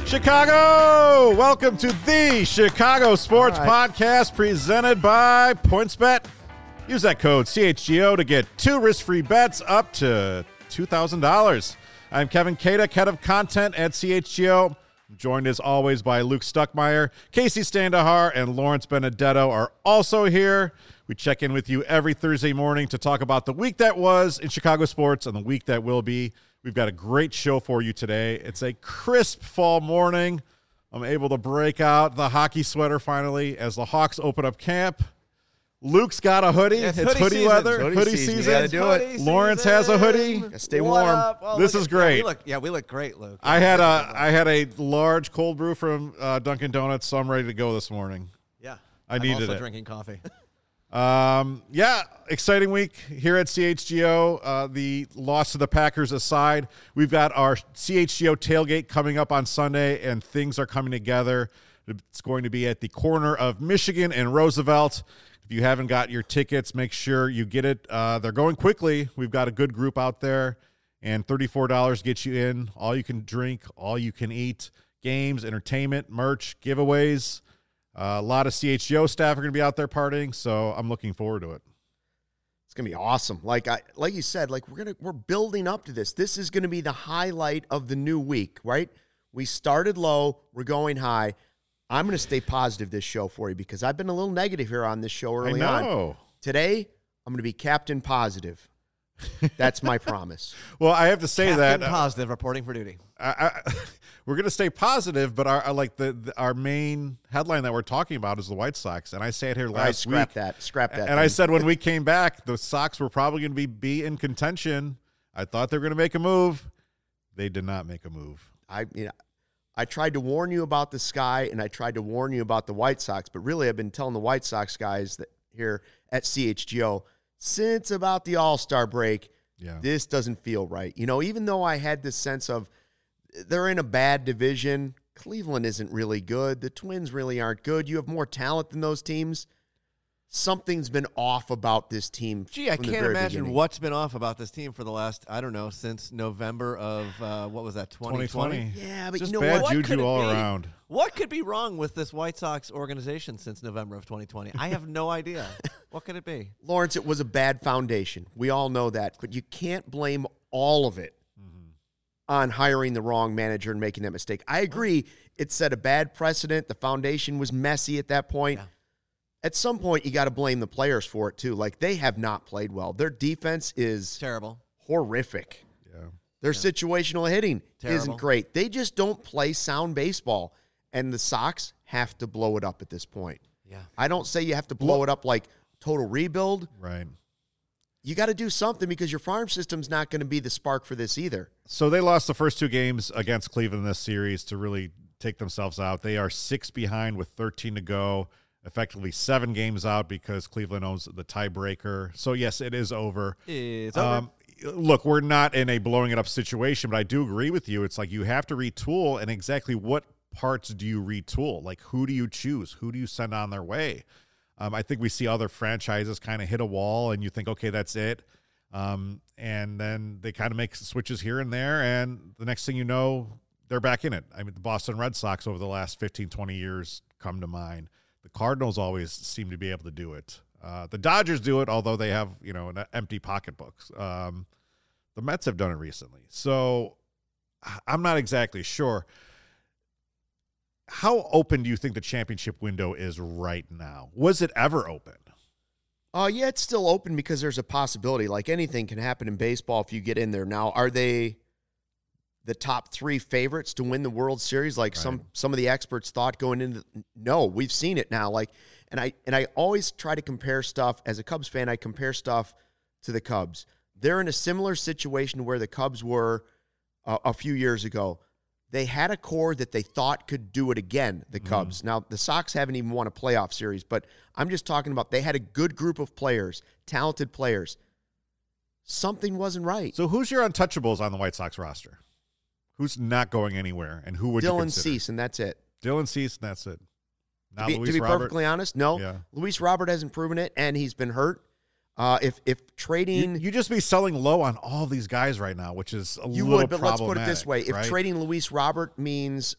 Chicago! Welcome to the Chicago Sports Podcast presented by PointsBet. Use that code CHGO to get 2 risk-free bets up to $2,000. I'm Kevin Kata, head of content at CHGO. I'm joined as always by Luke Stuckmeyer, Casey Standahar, and Lawrence Benedetto are also here. We check in with you every Thursday morning to talk about the week that was in Chicago sports and the week that will be. We've got a great show for you today. It's a crisp fall morning. I'm able to break out the hockey sweater finally as the Hawks open up camp. Luke's got a hoodie. Yeah, it's hoodie weather. Hoodie season. Gotta do it. Lawrence has a hoodie. Stay warm. Well, this is great. We look great, Luke. I had a large cold brew from Dunkin' Donuts, so I'm ready to go this morning. Yeah. I needed also it. Drinking coffee. Exciting week here at CHGO. The loss to the Packers aside, we've got our CHGO tailgate coming up on Sunday, and things are coming together. It's going to be at the corner of Michigan and Roosevelt. If you haven't got your tickets, make sure you get it. They're going quickly. We've got a good group out there, and $34 gets you in. All you can drink, all you can eat, games, entertainment, merch, giveaways. A lot of CHGO staff are going to be out there partying, so I'm looking forward to it. It's going to be awesome. Like you said, we're building up to this. This is going to be the highlight of the new week, right? We started low, we're going high. I'm going to stay positive this show for you because I've been a little negative here on this show early on. Today, I'm going to be Captain Positive. That's my promise. Well, I have to say Captain that Positive reporting for duty. We're going to stay positive, but our main headline that we're talking about is the White Sox, and I sat here last week. Scrap that. And I said when we came back, the Sox were probably going to be in contention. I thought they were going to make a move. They did not make a move. I tried to warn you about the Sky, and I tried to warn you about the White Sox, but really I've been telling the White Sox guys that here at CHGO since about the All-Star break, This doesn't feel right. Even though I had this sense of they're in a bad division, Cleveland isn't really good. The Twins really aren't good. You have more talent than those teams. Something's been off about this team. Gee, I can't imagine what's been off about this team for the last, since November of, 2020? Yeah, but just you know bad what? juju all around. What could be wrong with this White Sox organization since November of 2020? I have no idea. What could it be? Lawrence, it was a bad foundation. We all know that. But you can't blame all of it on hiring the wrong manager and making that mistake. I agree. It set a bad precedent. The foundation was messy at that point. Yeah. At some point, you got to blame the players for it, too. They have not played well. Their defense is terrible, horrific. Yeah. Their situational hitting isn't great. They just don't play sound baseball, and the Sox have to blow it up at this point. Yeah. I don't say you have to blow it up like total rebuild. Right. You got to do something because your farm system's not going to be the spark for this either. So they lost the first 2 games against Cleveland in this series to really take themselves out. They are 6 behind with 13 to go. Effectively 7 games out because Cleveland owns the tiebreaker. So, yes, it is over. It's over. Look, we're not in a blowing it up situation, but I do agree with you. It's like you have to retool, and exactly what parts do you retool? Who do you choose? Who do you send on their way? I think we see other franchises kind of hit a wall, and you think, okay, that's it. And then they kind of make switches here and there, and the next thing you know, they're back in it. The Boston Red Sox over the last 15, 20 years come to mind. The Cardinals always seem to be able to do it. The Dodgers do it, although they have, an empty pocketbook. The Mets have done it recently. So I'm not exactly sure. How open do you think the championship window is right now? Was it ever open? Yeah, it's still open because there's a possibility. Anything can happen in baseball if you get in there. Now, are they the top 3 favorites to win the World Series right. some of the experts thought going into? No, we've seen it now. And I always try to compare stuff. As a Cubs fan, I compare stuff to the Cubs. They're in a similar situation where the Cubs were a few years ago. They had a core that they thought could do it again, the Cubs. Now, the Sox haven't even won a playoff series, but I'm just talking about they had a good group of players, talented players. Something wasn't right. So who's your untouchables on the White Sox roster? Who's not going anywhere, and who would you consider? Dylan Cease, and that's it. Dylan Cease, and that's it. To be perfectly honest, no. Yeah. Luis Robert hasn't proven it, and he's been hurt. If trading, you just be selling low on all these guys right now, which is you little would. But let's put it this way: if right? trading Luis Robert means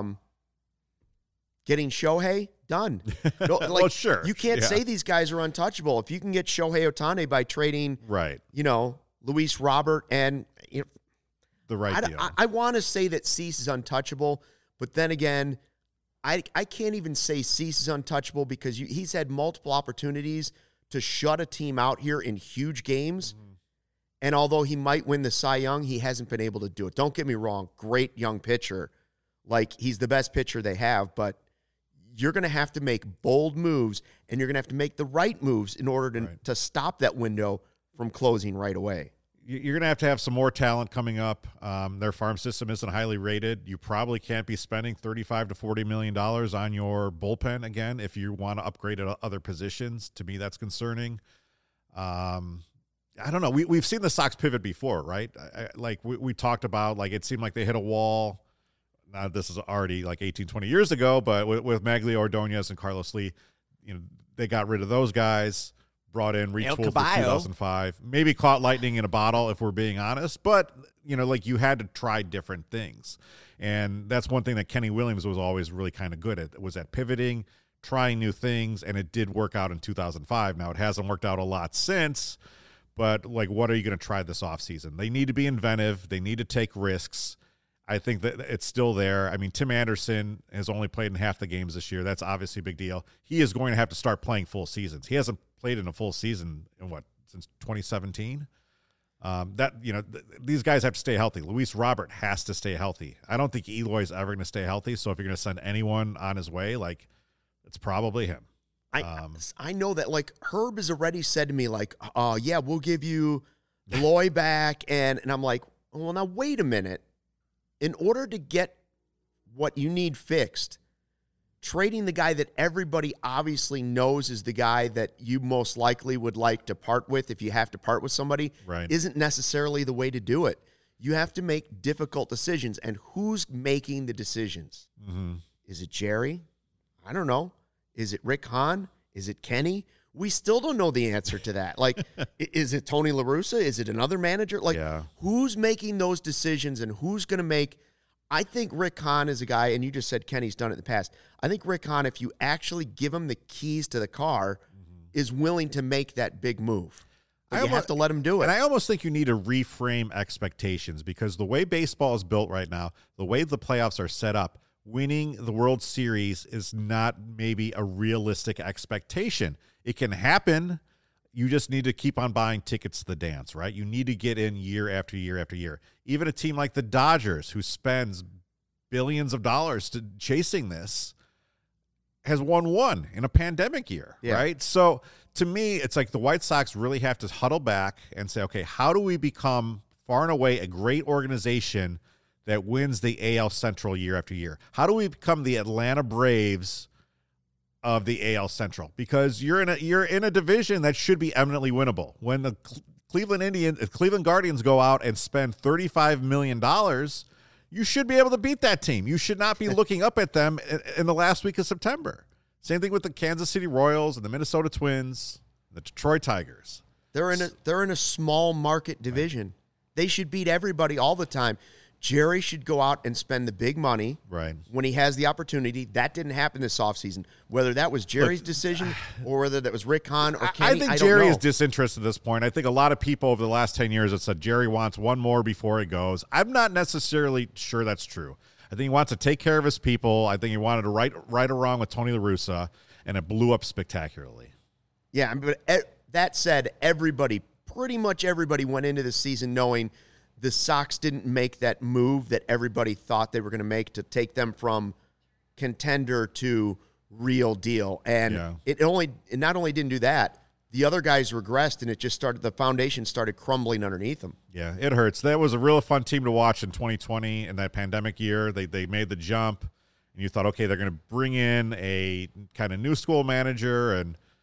getting Shohei, done. No, like, well, sure. You can't say these guys are untouchable. If you can get Shohei Ohtani by trading, right? Luis Robert and the right deal. I want to say that Cease is untouchable, but then again, I can't even say Cease is untouchable because he's had multiple opportunities to shut a team out here in huge games. Mm-hmm. And although he might win the Cy Young, he hasn't been able to do it. Don't get me wrong. Great young pitcher. Like, he's the best pitcher they have, but you're going to have to make bold moves, and you're going to have to make the right moves in order to stop that window from closing right away. You're going to have some more talent coming up. Their farm system isn't highly rated. You probably can't be spending $35 to $40 million on your bullpen again if you want to upgrade at other positions. To me, that's concerning. I don't know. We've seen the Sox pivot before, right? We talked about, like, it seemed like they hit a wall. Now, this is already like 18, 20 years ago, but with Magglio Ordonez and Carlos Lee, they got rid of those guys, brought in, retooled for 2005. Maybe caught lightning in a bottle, if we're being honest. But, you had to try different things. And that's one thing that Kenny Williams was always really kind of good at, was at pivoting, trying new things, and it did work out in 2005. Now, it hasn't worked out a lot since, but, what are you going to try this offseason? They need to be inventive. They need to take risks. I think that it's still there. I mean, Tim Anderson has only played in half the games this year. That's obviously a big deal. He is going to have to start playing full seasons. He hasn't played in a full season since 2017. These guys have to stay healthy. Luis Robert has to stay healthy. I don't think Eloy's ever going to stay healthy. So if you're going to send anyone on his way, it's probably him. I know that, Herb has already said to me, we'll give you Eloy back. And I'm like, well, now wait a minute. In order to get what you need fixed, trading the guy that everybody obviously knows is the guy that you most likely would like to part with if you have to part with somebody isn't necessarily the way to do it. You have to make difficult decisions. And who's making the decisions? Mm-hmm. Is it Jerry? I don't know. Is it Rick Hahn? Is it Kenny? We still don't know the answer to that. Is it Tony La Russa? Is it another manager? Who's making those decisions and who's going to make – I think Rick Hahn is a guy, and you just said Kenny's done it in the past. I think Rick Hahn, if you actually give him the keys to the car, is willing to make that big move. But you have to let him do it. And I almost think you need to reframe expectations because the way baseball is built right now, the way the playoffs are set up, winning the World Series is not maybe a realistic expectation. It can happen. You just need to keep on buying tickets to the dance, right? You need to get in year after year after year. Even a team like the Dodgers, who spends billions of dollars chasing this, has won one in a pandemic year, right? So to me, it's like the White Sox really have to huddle back and say, okay, how do we become far and away a great organization that wins the AL Central year after year? How do we become the Atlanta Braves of the AL Central? Because you're in a division that should be eminently winnable. When the Cleveland Guardians go out and spend $35 million, you should be able to beat that team. You should not be looking up at them in the last week of September. Same thing with the Kansas City Royals and the Minnesota Twins, the Detroit Tigers. They're in a small market division. Right. They should beat everybody all the time. Jerry should go out and spend the big money when he has the opportunity. That didn't happen this offseason. Whether that was Jerry's decision or whether that was Rick Hahn or Kenny, I think Jerry is disinterested at this point. I think a lot of people over the last 10 years have said Jerry wants one more before he goes. I'm not necessarily sure that's true. I think he wants to take care of his people. I think he wanted to right or wrong with Tony La Russa, and it blew up spectacularly. Yeah, but that said, pretty much everybody went into the season knowing – the Sox didn't make that move that everybody thought they were going to make to take them from contender to real deal. And it not only didn't do that, the other guys regressed, and the foundation started crumbling underneath them. Yeah, it hurts. That was a real fun team to watch in 2020 in that pandemic year. They made the jump, and you thought, okay, they're going to bring in a kind of new school manager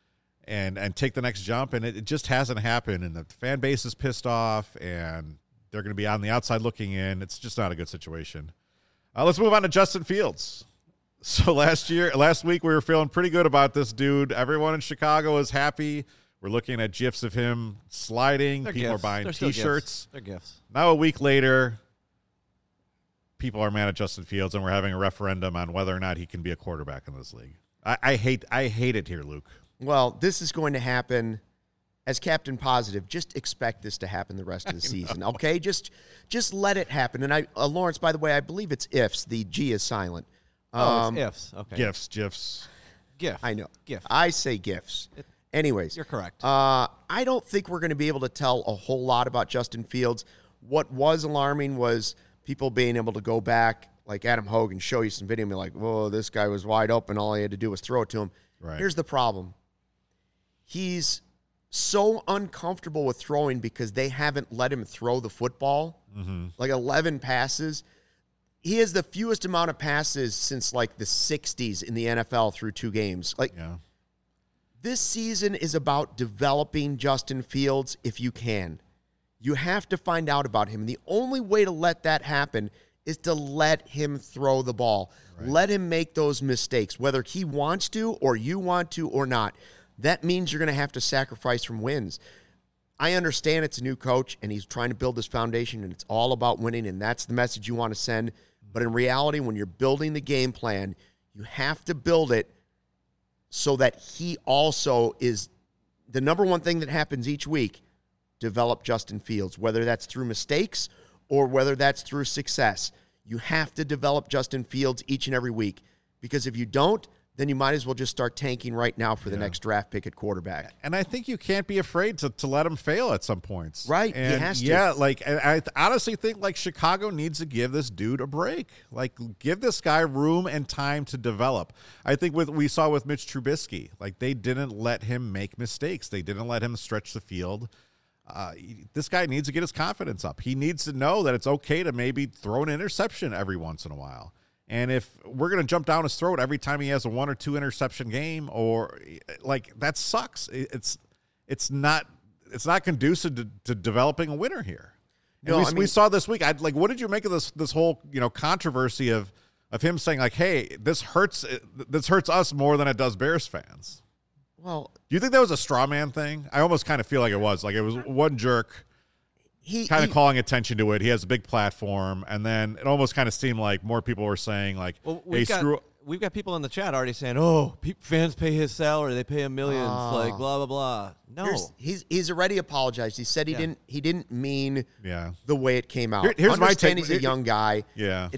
and take the next jump, and it just hasn't happened. And the fan base is pissed off, and they're going to be on the outside looking in. It's just not a good situation. Let's move on to Justin Fields. So last week we were feeling pretty good about this dude. Everyone in Chicago was happy We're looking at GIFs of him sliding. They're people gifts. are buying They're still T-shirts. Gifts. They're gifts. Now a week later, people are mad at Justin Fields, and we're having a referendum on whether or not he can be a quarterback in this league. I hate it here, Luke. Well, this is going to happen. As Captain Positive, just expect this to happen the rest of the season, okay? Just let it happen. And Lawrence, by the way, I believe it's ifs. The G is silent. It's ifs. Okay. GIFs. GIF. I know. GIF. I say gifs. Anyways. You're correct. I don't think we're going to be able to tell a whole lot about Justin Fields. What was alarming was people being able to go back, like Adam Hogan, show you some video and be like, whoa, this guy was wide open. All he had to do was throw it to him. Right. Here's the problem. He's so uncomfortable with throwing because they haven't let him throw the football, like 11 passes. He has the fewest amount of passes since like the 60s in the NFL through 2 games. This season is about developing Justin Fields if you can. You have to find out about him. And the only way to let that happen is to let him throw the ball. Right. Let him make those mistakes, whether he wants to or you want to or not. That means you're going to have to sacrifice from wins. I understand it's a new coach, and he's trying to build this foundation, and it's all about winning, and that's the message you want to send. But in reality, when you're building the game plan, you have to build it so that he also is the number one thing that happens each week, develop Justin Fields, whether that's through mistakes or whether that's through success. You have to develop Justin Fields each and every week, because if you don't, then you might as well just start tanking right now for the next draft pick at quarterback. And I think you can't be afraid to let him fail at some points. Right, and he has to. Yeah, I honestly think, Chicago needs to give this dude a break. Give this guy room and time to develop. I think we saw with Mitch Trubisky, they didn't let him make mistakes. They didn't let him stretch the field. This guy needs to get his confidence up. He needs to know that it's okay to maybe throw an interception every once in a while. And if we're going to jump down his throat every time he has a 1 or 2 interception game, or that sucks. It's not conducive to developing a winner here. And we saw this week. What did you make of this whole controversy of him saying hey, this hurts us more than it does Bears fans? Well, do you think that was a straw man thing? I almost kind of feel like it was. It was one jerk kind of calling attention to it. He has a big platform, and then it almost kind of seemed like more people were saying well, hey, we've got people in the chat already saying, fans pay his salary, they pay him millions, blah blah blah. No, he's already apologized. He said he didn't mean the way it came out. Here's my take. He's a young guy. Yeah,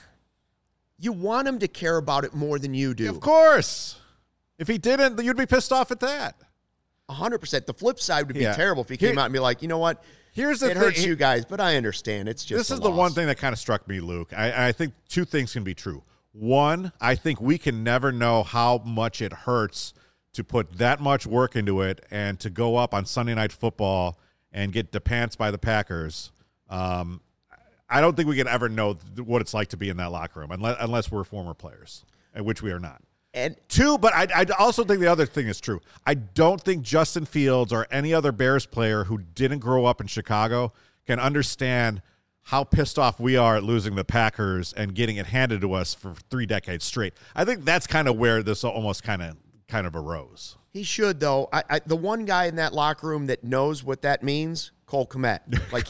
you want him to care about it more than you do. Yeah, of course. If he didn't, you'd be pissed off at that. 100%. The flip side would be terrible if he came out and be like, you know what? Here's the thing. It hurts you guys, but I understand. It's just this is the one thing that kind of struck me, Luke. I think 2 things can be true. One, I think we can never know how much it hurts to put that much work into it and to go up on Sunday Night Football and get depants by the Packers. I don't think we can ever know what it's like to be in that locker room unless we're former players, which we are not. And 2, but I also think the other thing is true. I don't think Justin Fields or any other Bears player who didn't grow up in Chicago can understand how pissed off we are at losing the Packers and getting it handed to us for 3 decades straight. I think that's kind of where this almost kind of arose. He should, though. The one guy in that locker room that knows what that means, Cole Kmet.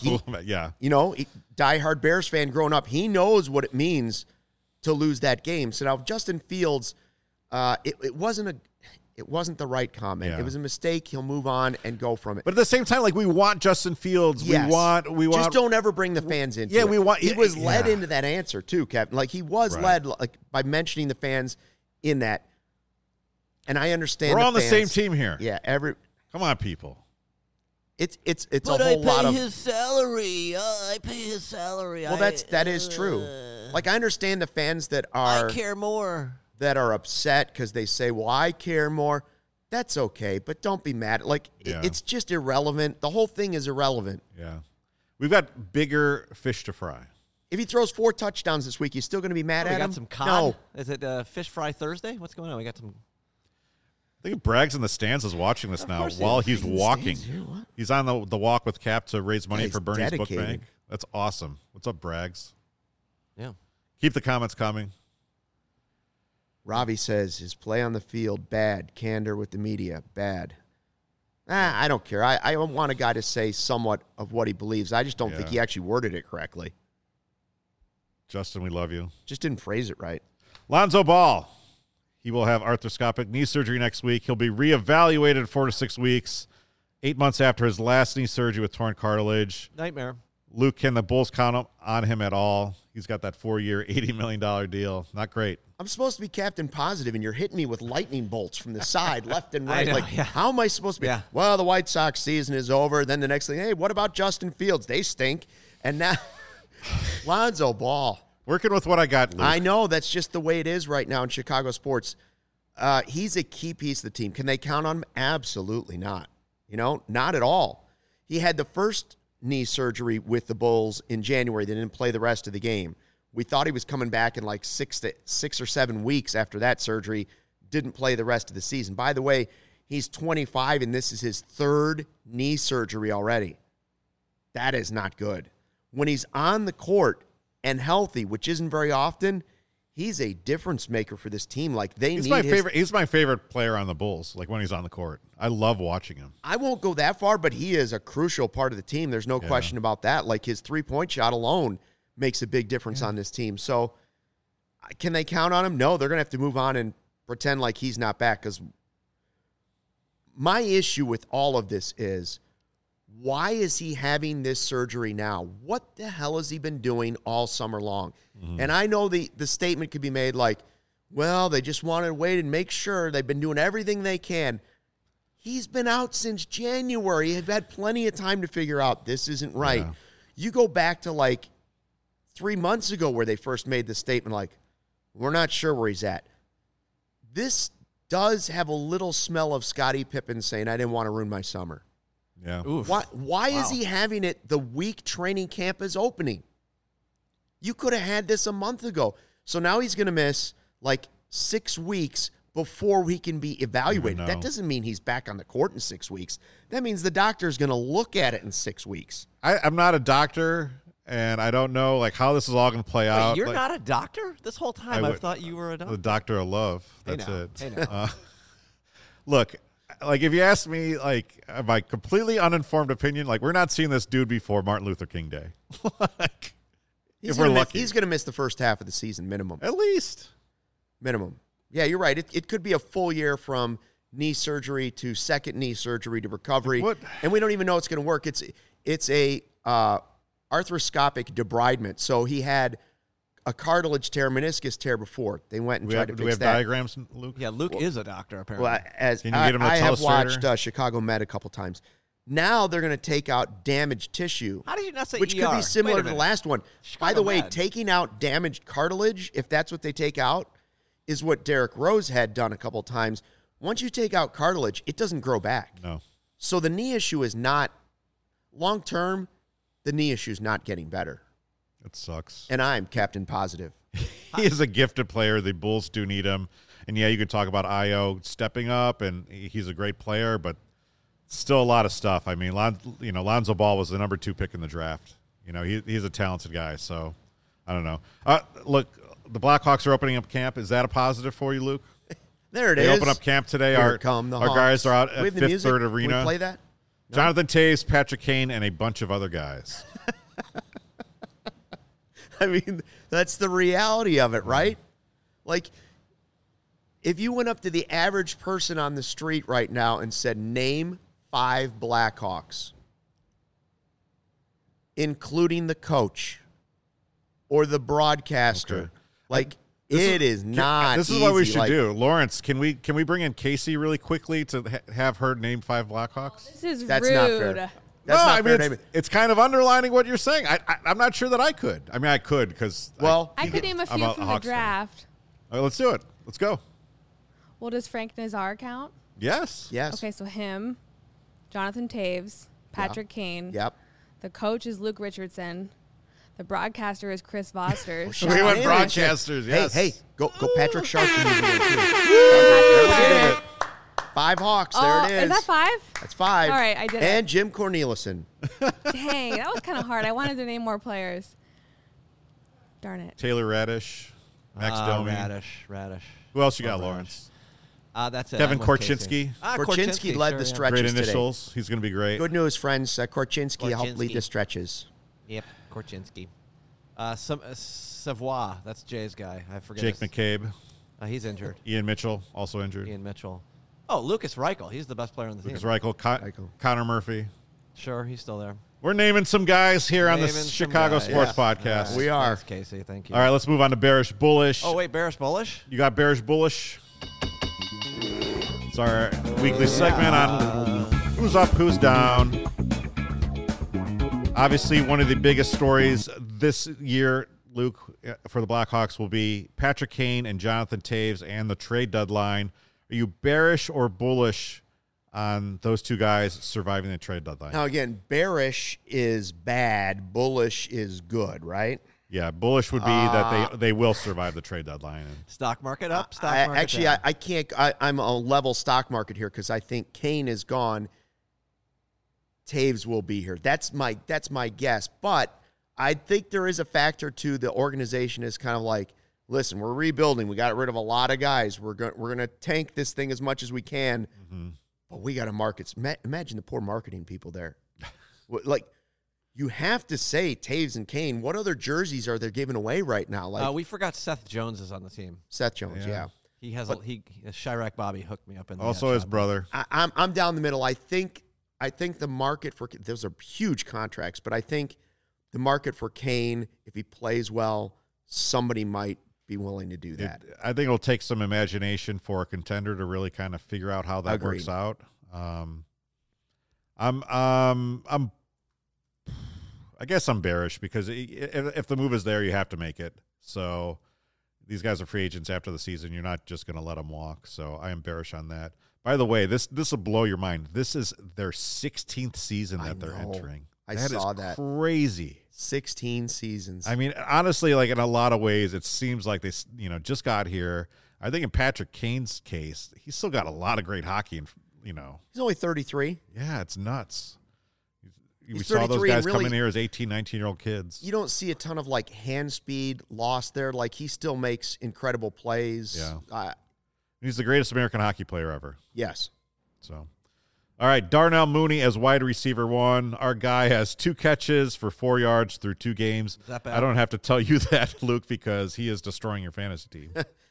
Diehard Bears fan growing up, he knows what it means to lose that game. So now Justin Fields, it wasn't the right comment. Yeah. It was a mistake. He'll move on and go from it. But at the same time, we want Justin Fields. Yes. We want. Just don't ever bring the fans into it. We want. He was led into that answer too, Captain. He was led by mentioning the fans in that. And I understand. We're all on the same team here. Yeah. Come on, people. It's a whole lot of. But I pay his salary. I pay his salary. Well, that is true. I understand the fans that are. I care more. That are upset because they say, well, I care more. That's okay, but don't be mad. It's just irrelevant. The whole thing is irrelevant. Yeah. We've got bigger fish to fry. If he throws 4 touchdowns this week, you still going to be mad at him? We got some cod? No. Is it Fish Fry Thursday? What's going on? We got some... I think Braggs in the stands is watching this now while he's walking. He's on the walk with Cap to raise money for Bernie's Book Bank. That's awesome. What's up, Braggs? Yeah. Keep the comments coming. Ravi says his play on the field, bad. Candor with the media, bad. I don't care. I want a guy to say somewhat of what he believes. I just don't think he actually worded it correctly. Justin, we love you. Just didn't phrase it right. Lonzo Ball. He will have arthroscopic knee surgery next week. He'll be reevaluated in 4 to 6 weeks, 8 months after his last knee surgery with torn cartilage. Nightmare. Luke, can the Bulls count on him at all? He's got that 4-year, $80 million deal. Not great. I'm supposed to be Captain Positive, and you're hitting me with lightning bolts from the side, left and right. Know, how am I supposed to be? Yeah. Well, the White Sox season is over. Then the next thing, hey, what about Justin Fields? They stink. And now Lonzo Ball. Working with what I got, Luke. I know. That's just the way it is right now in Chicago sports. He's a key piece of the team. Can they count on him? Absolutely not. Not at all. He had the first knee surgery with the Bulls in January. They didn't play the rest of the game. We thought he was coming back in like 6 or 7 weeks after that surgery. Didn't play the rest of the season. By the way, he's 25, and this is his 3rd knee surgery already. That is not good. When he's on the court and healthy, which isn't very often, he's a difference maker for this team. Like he's my favorite player on the Bulls. Like when he's on the court, I love watching him. I won't go that far, but he is a crucial part of the team. There's no question about that. Like his 3-point shot alone makes a big difference on this team. So can they count on him? No, they're going to have to move on and pretend like he's not back. Because my issue with all of this is, why is he having this surgery now? What the hell has he been doing all summer long? Mm-hmm. And I know the statement could be made like, well, they just wanted to wait and make sure. They've been doing everything they can. He's been out since January. He'd had plenty of time to figure out this isn't right. Yeah. You go back to like 3 months ago where they first made the statement like, we're not sure where he's at. This does have a little smell of Scottie Pippen saying, I didn't want to ruin my summer. Yeah. Oof. Why is he having it the week training camp is opening? You could have had this a month ago. So now he's going to miss like 6 weeks before he can be evaluated. That doesn't mean he's back on the court in 6 weeks. That means the doctor's going to look at it in 6 weeks. I'm not a doctor, and I don't know like how this is all going to play out. You're not a doctor? This whole time I've thought you were a doctor. The doctor of love. That's it. Hey now. Look, like if you ask me, like my completely uninformed opinion, like we're not seeing this dude before Martin Luther King Day. Like, if we're lucky, he's going to miss the first half of the season minimum. At least minimum. Yeah, you're right. It could be a full year from knee surgery to second knee surgery to recovery, and we don't even know it's going to work. It's a arthroscopic debridement. So he had a cartilage tear, meniscus tear before. They went and tried to fix that. Do we have diagrams, Luke? Yeah, Luke is a doctor, apparently. Well, can you get him to I tell have watched Chicago Med a couple times. Now they're going to take out damaged tissue. How did you not say which ER? could be similar to the last one. By the way, Med. taking out damaged cartilage, if that's what they take out, is what Derrick Rose had done a couple times. Once you take out cartilage, it doesn't grow back. No. So the knee issue is not, long term, the knee issue is not getting better. It sucks. And I'm Captain Positive. He is a gifted player. The Bulls do need him. And, yeah, you could talk about Ayo stepping up, and he's a great player, but still a lot of stuff. I mean, Lonzo Ball was the number 2 pick in the draft. He's a talented guy, so I don't know. Look, the Blackhawks are opening up camp. Is that a positive for you, Luke? There it they is. Open up camp today. Our guys are out at Fifth Third Arena. Can we play that? No? Jonathan Toews, Patrick Kane, and a bunch of other guys. I mean, that's the reality of it, right? Like, if you went up to the average person on the street right now and said, name 5 Blackhawks, including the coach or the broadcaster, it is not This is easy. what we should do. Lawrence, can we bring in Casey really quickly to have her name 5 Blackhawks? This is That's rude. not fair. That's not fair. It's kind of underlining what you're saying. I'm not sure that I could. I mean, I could because I could name a few from the draft. All right, let's do it. Let's go. Well, does Frank Nazar count? Yes. Okay, so him, Jonathan Toews, Patrick Kane. Yep. The coach is Luke Richardson. The broadcaster is Chris Voster. We went broadcasters. Yes. Hey, go Patrick Sharp. Patrick 5 Hawks. There it is. Is that 5? That's 5. All right, I did it. And Jim Cornelison. Dang, that was kind of hard. I wanted to name more players. Darn it. Taylor Radish, Max Domi. Radish. Who else you got, Lawrence? That's it. Kevin I'm with Korchinski. Korchinski led the stretches Great today. initials. He's going to be great. Good news, friends. Korchinski helped lead the stretches. Yep, Korchinski. Savoy, that's Jay's guy. I forget. Jake McCabe. He's injured. Ian Mitchell, also injured. Ian Mitchell. Oh, Lucas Reichel. He's the best player on the Lucas team. Reichel. Connor Murphy. Sure, he's still there. We're naming some guys here on the Naming some Chicago guys. Sports Yeah. Podcast. Right. We are. Thanks, Casey. Thank you. All right, let's move on to Bearish Bullish. Oh, wait, Bearish Bullish? You got Bearish Bullish. It's our weekly segment on who's up, who's down. Obviously, one of the biggest stories this year, Luke, for the Blackhawks will be Patrick Kane and Jonathan Toews and the trade deadline. Are you bearish or bullish on those two guys surviving the trade deadline? Now, again, bearish is bad. Bullish is good, right? Yeah, bullish would be that they will survive the trade deadline. Stock market up, stock market down. I can't. I'm a level stock market here because I think Kane is gone. Toews will be here. That's my guess. But I think there is a factor to the organization is kind of like, listen, we're rebuilding. We got rid of a lot of guys. We're going to tank this thing as much as we can. Mm-hmm. But we got to market. Imagine the poor marketing people there. Like, you have to say Toews and Kane. What other jerseys are they giving away right now? Like we forgot Seth Jones is on the team. Seth Jones, yeah. He has Chirac Bobby hooked me up in the Also his brother. I'm down the middle. I think the market for those are huge contracts, but I think the market for Kane, if he plays well, somebody might be willing to do that. I think it'll take some imagination for a contender to really kind of figure out how that Agreed. works out. I guess I'm bearish because if the move is there, you have to make it. So these guys are free agents after the season. You're not just going to let them walk. So I am bearish on that. By the way, this will blow your mind. This is their 16th season that they're entering. I saw that. Crazy. 16 seasons. I mean, honestly, like in a lot of ways, it seems like they, just got here. I think in Patrick Kane's case, he's still got a lot of great hockey, and he's only 33. Yeah, it's nuts. We He's saw those 33 guys and come really, in here as 18, 19-year-old kids. You don't see a ton of like hand speed lost there. Like he still makes incredible plays. Yeah. He's the greatest American hockey player ever. Yes. So, all right, Darnell Mooney as wide receiver 1. Our guy has 2 catches for 4 yards through 2 games. Is that bad? I don't have to tell you that, Luke, because he is destroying your fantasy team.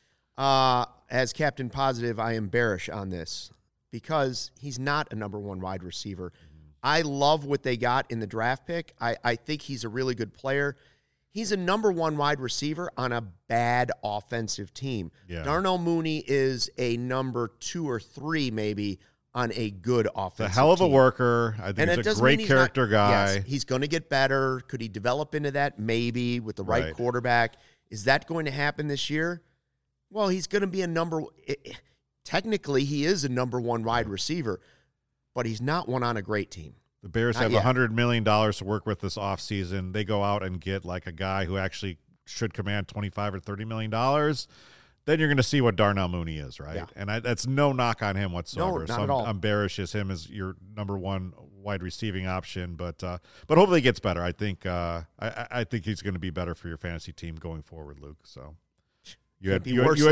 As Captain Positive, I am bearish on this because he's not a number 1 wide receiver. I love what they got in the draft pick. I think he's a really good player. He's a number 1 wide receiver on a bad offensive team. Yeah. Darnell Mooney is a number 2 or 3 maybe on a good offensive team. He's a hell of a worker. I think he's a great character guy. Yes, he's going to get better. Could he develop into that? Maybe with the right quarterback. Is that going to happen this year? Well, he's going to be technically, he is a number 1 wide receiver, but he's not one on a great team. The Bears have $100 million to work with this offseason. They go out and get like a guy who actually should command $25 or $30 million. Then you're going to see what Darnell Mooney is, right? Yeah. And that's no knock on him whatsoever. No, not at all. I'm bearish as him as your number 1 wide receiving option, but hopefully he gets better. I think he's going to be better for your fantasy team going forward, Luke. So you had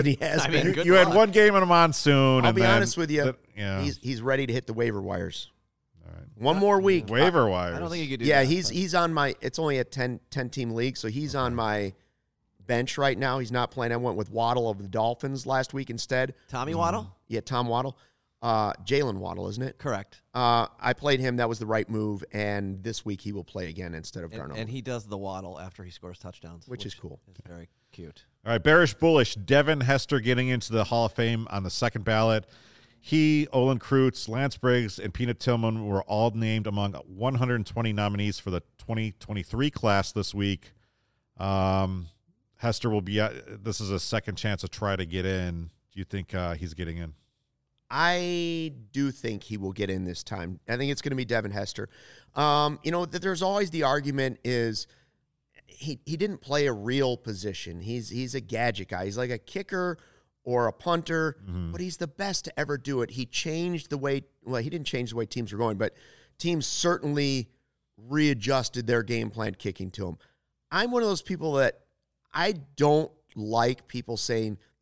one game in a monsoon. I'll be honest with you. He's ready to hit the waiver wires. All right. One more week. Waiver wires. I don't think you could do that. Yeah, he's he's on my – it's only a 10-team league, so he's on my bench right now. He's not playing. I went with Waddle of the Dolphins last week instead. Tommy Waddle? Yeah, Tom Waddle. Jalen Waddle, isn't it? Correct. I played him. That was the right move, and this week he will play again instead of Darnell. And he does the Waddle after he scores touchdowns. Which is cool. It's very cute. All right, bearish bullish. Devin Hester getting into the Hall of Fame on the second ballot. He, Olin Kreutz, Lance Briggs, and Peanut Tillman were all named among 120 nominees for the 2023 class this week. Hester will be this is a second chance to try to get in. Do you think he's getting in? I do think he will get in this time. I think it's going to be Devin Hester. There's always the argument is he didn't play a real position. He's a gadget guy. He's like a kicker or a punter, but he's the best to ever do it. He changed the way, he didn't change the way teams were going, but teams certainly readjusted their game plan kicking to him. I'm one of those people that I don't like people saying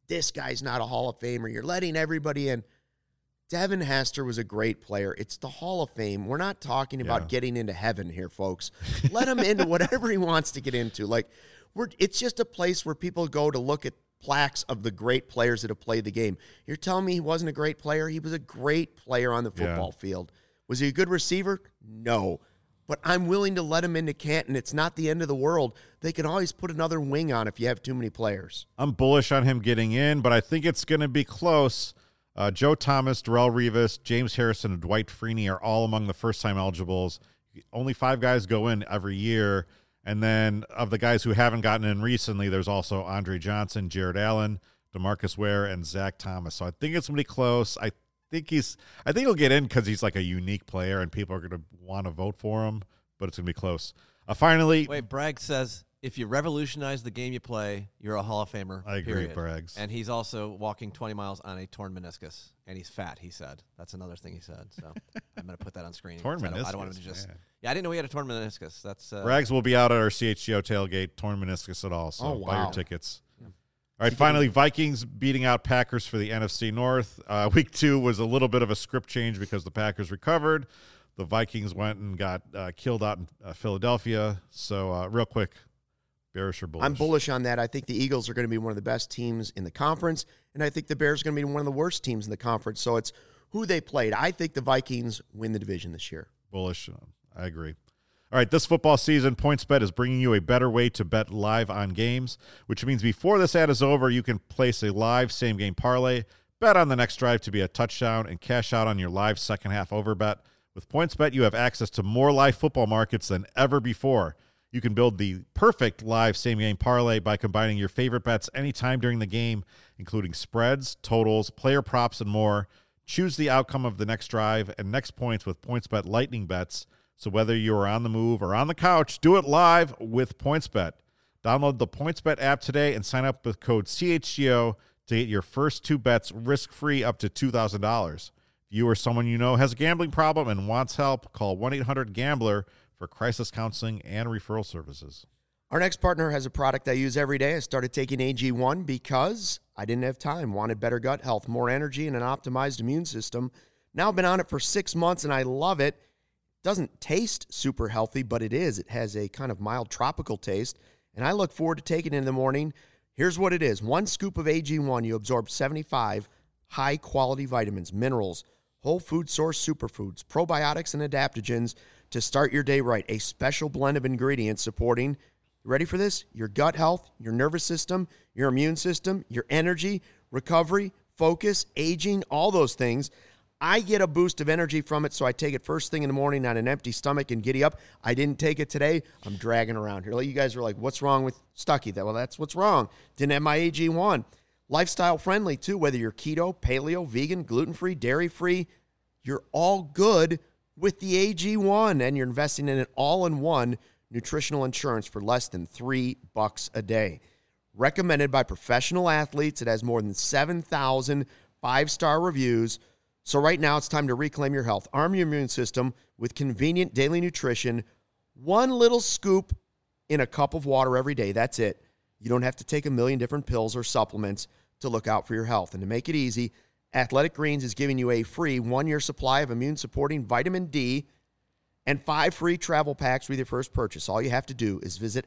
this guy's not a Hall of Famer. You're letting everybody in. Devin Hester was a great player. It's the Hall of Fame. We're not talking about getting into heaven here, folks. Let him into whatever he wants to get into. Like, it's just a place where people go to look at plaques of the great players that have played the game. You're telling me he wasn't a great player? He was a great player on the football field. Was he a good receiver? No. But I'm willing to let him into Canton. It's not the end of the world. They can always put another wing on if you have too many players. I'm bullish on him getting in, but I think it's going to be close. Joe Thomas, Darrelle Revis, James Harrison, and Dwight Freeney are all among the first-time eligibles. Only 5 guys go in every year. And then of the guys who haven't gotten in recently, there's also Andre Johnson, Jared Allen, DeMarcus Ware, and Zach Thomas. So I think it's going to be close. I think he'll get in because he's like a unique player and people are going to want to vote for him, but it's going to be close. Finally. Wait, Bragg says, if you revolutionize the game you play, you're a Hall of Famer. I agree, Braggs. And he's also walking 20 miles on a torn meniscus. And he's fat, he said. That's another thing he said. So I'm going to put that on screen. Torn meniscus. I don't want him to just. Yeah, I didn't know he had a torn meniscus. That's Braggs will be out at our CHGO tailgate, torn meniscus at all. So buy your tickets. Yeah. All right, finally, Vikings beating out Packers for the NFC North. Week 2 was a little bit of a script change because the Packers recovered. The Vikings went and got killed out in Philadelphia. So real quick, bearish or bullish? I'm bullish on that. I think the Eagles are going to be one of the best teams in the conference, and I think the Bears are going to be one of the worst teams in the conference. So it's who they played. I think the Vikings win the division this year. Bullish. I agree. All right, this football season, PointsBet is bringing you a better way to bet live on games, which means before this ad is over, you can place a live same-game parlay, bet on the next drive to be a touchdown, and cash out on your live second-half overbet. With PointsBet, you have access to more live football markets than ever before. You can build the perfect live same-game parlay by combining your favorite bets anytime during the game, including spreads, totals, player props, and more. Choose the outcome of the next drive and next points with PointsBet Lightning Bets. So whether you are on the move or on the couch, do it live with PointsBet. Download the PointsBet app today and sign up with code CHGO to get your first 2 bets risk-free up to $2,000. If you or someone you know has a gambling problem and wants help, call 1-800-GAMBLER for crisis counseling and referral services. Our next partner has a product I use every day. I started taking AG1 because I didn't have time, wanted better gut health, more energy, and an optimized immune system. Now I've been on it for 6 months, and I love it. Doesn't taste super healthy, but it is. It has a kind of mild tropical taste, and I look forward to taking it in the morning. Here's what it is. 1 scoop of AG1, you absorb 75 high-quality vitamins, minerals, whole food source superfoods, probiotics, and adaptogens to start your day right. A special blend of ingredients supporting, you ready for this? Your gut health, your nervous system, your immune system, your energy, recovery, focus, aging, all those things. I get a boost of energy from it, so I take it first thing in the morning on an empty stomach and giddy up. I didn't take it today. I'm dragging around here. You guys are like, what's wrong with Stuckey? Well, that's what's wrong. Didn't have my AG1. Lifestyle friendly, too, whether you're keto, paleo, vegan, gluten-free, dairy-free. You're all good with the AG1, and you're investing in an all-in-one nutritional insurance for less than $3 a day. Recommended by professional athletes. It has more than 7,000 5-star reviews. So right now, it's time to reclaim your health. Arm your immune system with convenient daily nutrition. 1 little scoop in a cup of water every day. That's it. You don't have to take a million different pills or supplements to look out for your health. And to make it easy, Athletic Greens is giving you a free 1-year supply of immune-supporting vitamin D and 5 free travel packs with your first purchase. All you have to do is visit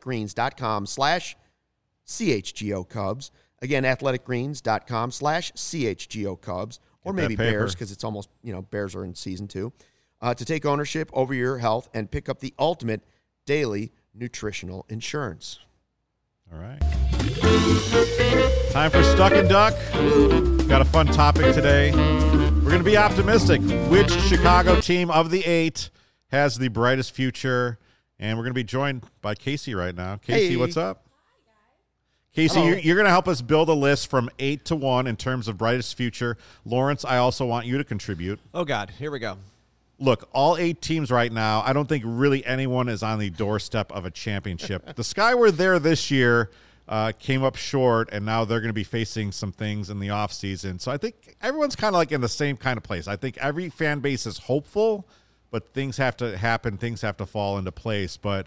athleticgreens.com/CHGO Cubs. Again, athleticgreens.com/CHGO Cubs. Or maybe Bears, because it's almost, Bears are in season 2, to take ownership over your health and pick up the ultimate daily nutritional insurance. All right. Time for Stuck and Duck. Got a fun topic today. We're going to be optimistic. Which Chicago team of the 8 has the brightest future? And we're going to be joined by Casey right now. Casey, what's up? Casey, you're going to help us build a list from 8 to 1 in terms of brightest future. Lawrence, I also want you to contribute. Oh, God. Here we go. Look, all 8 teams right now, I don't think really anyone is on the doorstep of a championship. The Sky were there this year, came up short, and now they're going to be facing some things in the offseason. So I think everyone's kind of like in the same kind of place. I think every fan base is hopeful, but things have to happen. Things have to fall into place. But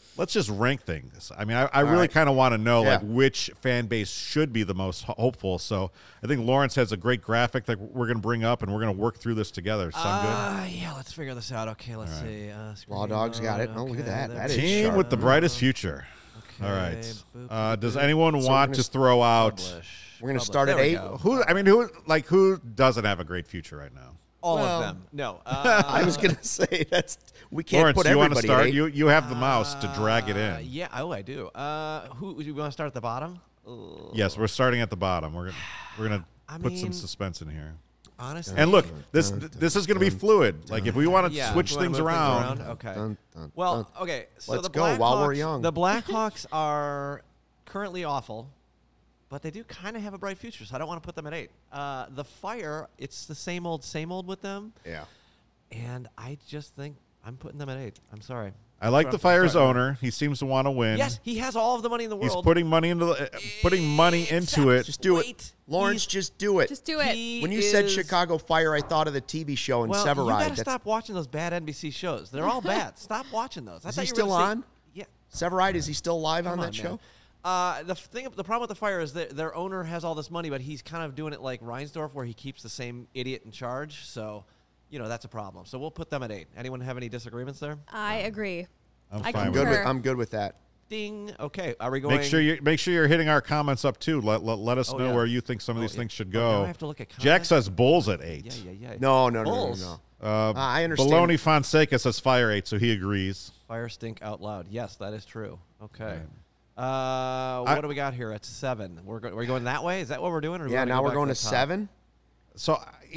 let's just rank things. I mean, I really kind of want to know like which fan base should be the most hopeful. So I think Lawrence has a great graphic that we're going to bring up, and we're going to work through this together. Sound good? Yeah, let's figure this out. Okay, let's see. Law Dogs got it. Oh, look at that. That is Team sharp. with the brightest future. Okay, All right. Does anyone want to throw out? We're going to start at 8. Who doesn't have a great future right now? All of them. No. I was going to say we can't Lawrence, put you want to everybody start? at 8. You have the mouse to drag it in. Yeah. Oh, I do. Who you want to start at the bottom? Yes, we're starting at the bottom. We're gonna put some suspense in here. Honestly, and look, this is going to be fluid. Like if we want to switch things around. Okay. Okay. So Let's the go while we're young. The Blackhawks are currently awful, but they do kind of have a bright future. So I don't want to put them at 8. The Fire, it's the same old with them. Yeah. And I just think I'm putting them at 8. I'm sorry. I like the Fire's owner. He seems to want to win. Yes, he has all of the money in the world. He's putting money into it. Just do it. Lawrence, just do it. Just do it. When you said Chicago Fire, I thought of the TV show in Severide. You got to stop watching those bad NBC shows. They're all bad. Stop watching those. Is he still on? Yeah. Severide, is he still live on that show? The problem with the Fire is that their owner has all this money, but he's kind of doing it like Reinsdorf, where he keeps the same idiot in charge. So, that's a problem. So we'll put them at 8. Anyone have any disagreements there? I agree. I'm fine I'm good with that. Ding. Okay. Are we going? Make sure you're hitting our comments up too. Let us know where you think some of these things should go. Now I have to look at comments? Jack says Bulls at 8. Yeah. No. I understand. Baloney Fonseca says Fire 8, so he agrees. Fire stink out loud. Yes, that is true. Okay. What do we got here at 7? We're going that way? Is that what we're doing? Or now we're going to 7. So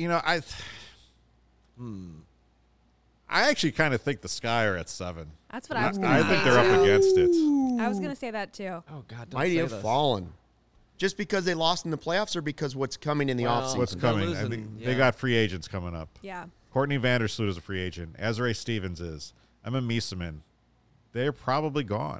I actually kind of think the Sky are at 7. That's what I was going to say. I think they're up against it. I was going to say that too. Oh, God. Mighty have fallen. Just because they lost in the playoffs or because what's coming in the offseason? What's coming? I think they got free agents coming up. Yeah. Courtney Vandersloot is a free agent. Azrae Stevens is. Emma Miesemann. They're probably gone.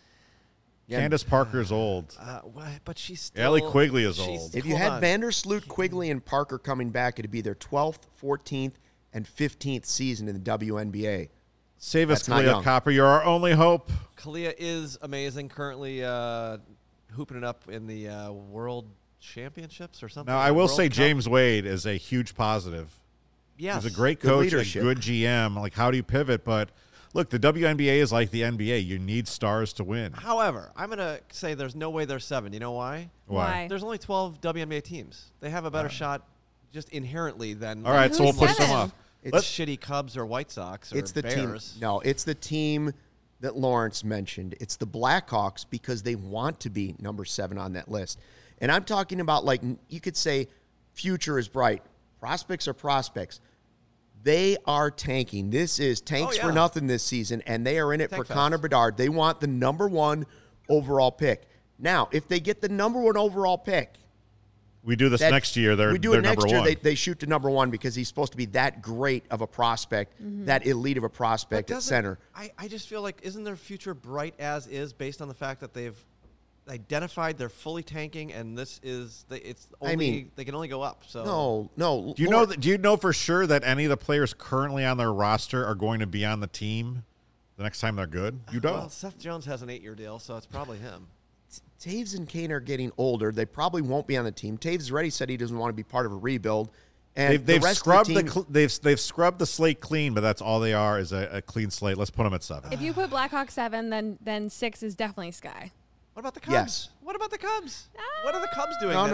Yeah. Candace Parker is old. But she's still... Allie Quigley is old. If you had Vandersloot, Quigley, and Parker coming back, it'd be their 12th, 14th, and 15th season in the WNBA. Save us, Kalia Copper. You're our only hope. Kalia is amazing. Currently hooping it up in the World Championships or something. Now, I will say James Wade is a huge positive. Yes. He's a great coach, a good GM. Like, how do you pivot? But, look, the WNBA is like the NBA. You need stars to win. However, I'm going to say there's no way they're 7. You know why? Why? There's only 12 WNBA teams. They have a better shot just inherently than... All right, so we'll push them off. It's shitty Cubs or White Sox or Bears. No, it's the team that Lawrence mentioned. It's the Blackhawks because they want to be number 7 on that list. And I'm talking about, like, you could say future is bright. Prospects are prospects. They are tanking. This is tanks for nothing this season, and they are in it for Connor Bedard. They want the number 1 overall pick. Now, if they get the number 1 overall pick, we do this next year. We do it next year. They shoot to number 1 because he's supposed to be that great of a prospect, that elite of a prospect at center. I just feel like, isn't their future bright as is based on the fact that they've identified they're fully tanking, and this is they can only go up. So no. Do you know for sure that any of the players currently on their roster are going to be on the team the next time they're good? You don't. Well, Seth Jones has an 8-year deal, so it's probably him. Taves and Kane are getting older. They probably won't be on the team. Taves already said he doesn't want to be part of a rebuild. And they've scrubbed they've scrubbed the slate clean, but that's all they are is a clean slate. Let's put them at 7. If you put Blackhawks 7, then 6 is definitely Sky. What about the Cubs? Yes. What about the Cubs? What are the Cubs doing? No.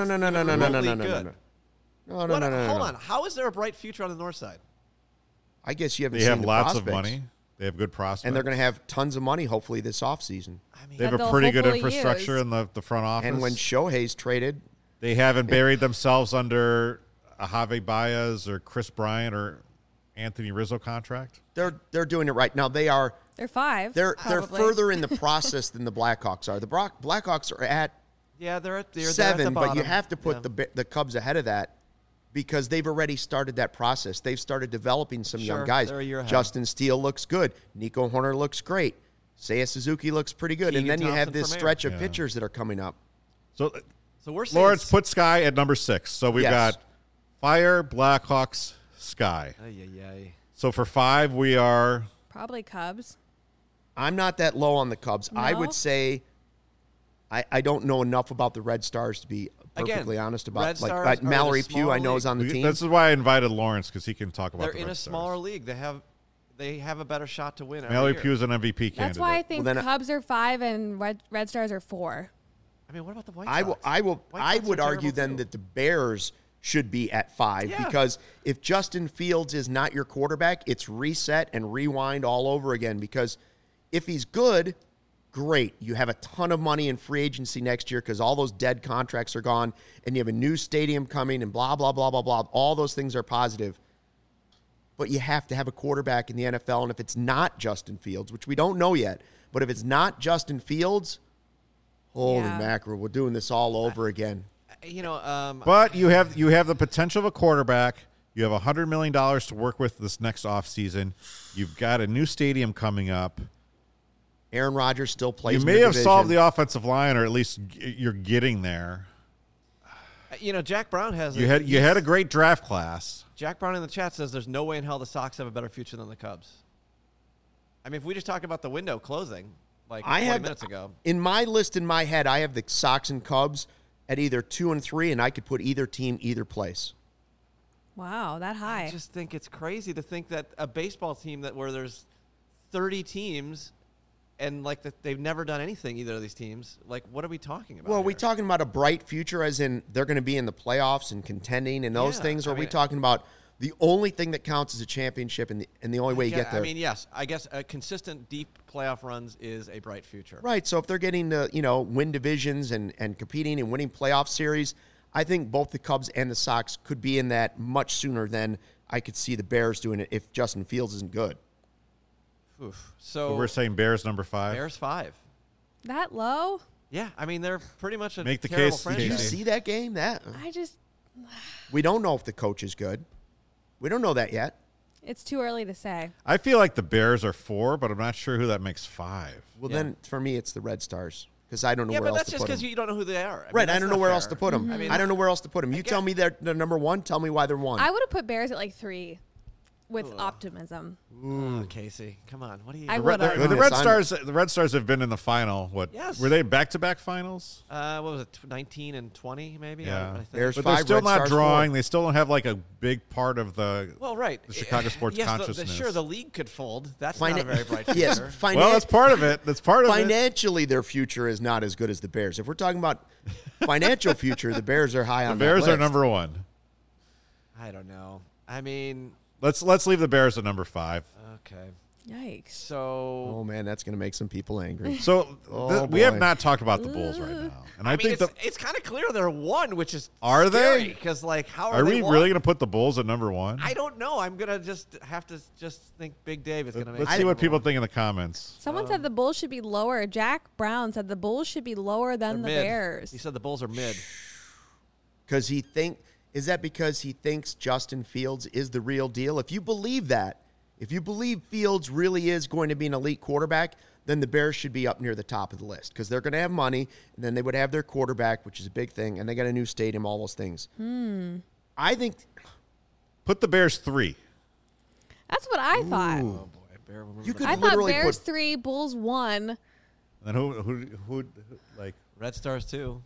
Hold on. How is there a bright future on the north side? I guess you haven't They seen have the lots prospects. of money. They have good prospects. And they're going to have tons of money, hopefully, this offseason. They have a pretty good infrastructure in the front office. And when Shohei's traded, they haven't buried themselves under a Javi Baez or Chris Bryant or Anthony Rizzo contract. They're doing it right. Now, they're 5. They're further in the process than the Blackhawks are. The Blackhawks are at they're 7, at the but you have to put the Cubs ahead of that because they've already started that process. They've started developing some young guys. They're a year ahead. Justin Steele looks good. Nico Horner looks great. Seiya Suzuki looks pretty good. Keegan and then you have Thompson this from stretch of pitchers that are coming up. So we're saying Lawrence, put Sky at number 6. So we've got Fire, Blackhawks, Sky. So for 5, we are... Probably Cubs. I'm not that low on the Cubs. I No? would say I don't know enough about the Red Stars to be perfectly honest about. Red Stars are Like in a Mallory Pugh, I smaller know is on the We- team. This is why I invited Lawrence, because he can talk about They're the in Red a Stars. smaller league. They have a better shot to win. every Mallory year. Pugh is an MVP candidate. That's why I think Well, then Cubs are 5 and Red Stars are 4. I mean, what about the White I Sox? I would argue terrible, then too. that the Bears should be at 5 Yeah. because if Justin Fields is not your quarterback, it's reset and rewind all over again. Because if he's good, great. You have a ton of money in free agency next year because all those dead contracts are gone, and you have a new stadium coming, and blah blah blah blah blah. All those things are positive. But you have to have a quarterback in the NFL, and if it's not Justin Fields, which we don't know yet, but if it's not Justin Fields, holy Yeah. mackerel, we're doing this all over again. But you have the potential of a quarterback. You have $100 million to work with this next offseason. You've got a new stadium coming up. Aaron Rodgers still plays. You may have solved the offensive line, or at least you're getting there. Jack Brown has. You had a great draft class. Jack Brown in the chat says there's no way in hell the Sox have a better future than the Cubs. I mean, if we just talked about the window closing like 20 minutes ago. In my list in my head, I have the Sox and Cubs at either 2 and 3, and I could put either team either place. Wow, that high. I just think it's crazy to think that a baseball team where there's 30 teams and that they've never done anything, either of these teams. Like, what are we talking about? Well, are we here? talking about a bright future as in they're going to be in the playoffs and contending and those Yeah, things? Or I are we mean- talking about the only thing that counts is a championship and the only way you get there? I mean, yes. I guess a consistent deep playoff runs is a bright future. Right. So if they're getting to, win divisions and competing and winning playoff series, I think both the Cubs and the Sox could be in that much sooner than I could see the Bears doing it if Justin Fields isn't good. Oof. So So we're saying Bears number 5. Bears 5. That low? Yeah, I mean, they're pretty much a Make the terrible case, Did you franchise. Casey. see that game? I just, We don't know if the coach is good. We don't know that yet. it's too early to say. I feel like the Bears are 4, but I'm not sure who that makes 5. Well, Yeah. then for me, it's the Red Stars because I don't know Yeah, where but else that's to just put because them. you don't know who they are. Right, I that's don't know not where fair. else to put them. I mean, I don't know where else to put them. You get- tell me they're number 1. Tell me why they're 1. I would have put Bears at 3 with optimism. Oh, Casey, come on. What are you? I The would Red, have. the Goodness, Red Stars have been in the final. What? Yes. Were they back-to-back finals? What was it? 19 and 20, maybe. Yeah. I think. There's But they're 5, still Red not Stars, 4. drawing. They still don't have a big part of the. Well, right. The Chicago sports yes, consciousness. Sure, the league could fold. That's not a very bright future. Yes, Well, that's part of it. That's part of it. financially, their future is not as good as the Bears. If we're talking about financial future, the Bears are high on The that Bears are list. number 1. I don't know. I mean, Let's leave the Bears at number 5. okay. Yikes. So, Oh man, that's going to make some people angry. So Oh, we have boy. not talked about the Bulls right now, and I, mean, think it's kind of clear they're 1, which is Are they? Because how are they we one? really going to put the Bulls at number 1? I don't know. I'm gonna just have to think Big Dave is gonna make. Let's it see what number people one. think in the comments. Someone said the Bulls should be lower. Jack Brown said the Bulls should be lower than the They're mid. Bears. He said the Bulls are mid. Because is that because he thinks Justin Fields is the real deal? If you believe that, if you believe Fields really is going to be an elite quarterback, then the Bears should be up near the top of the list because they're going to have money, and then they would have their quarterback, which is a big thing, and they got a new stadium, all those things. I think Put the Bears 3. That's what I thought. Oh boy, Bear, you could I thought literally Bears put 3, Bulls 1. And then who like Red Stars too.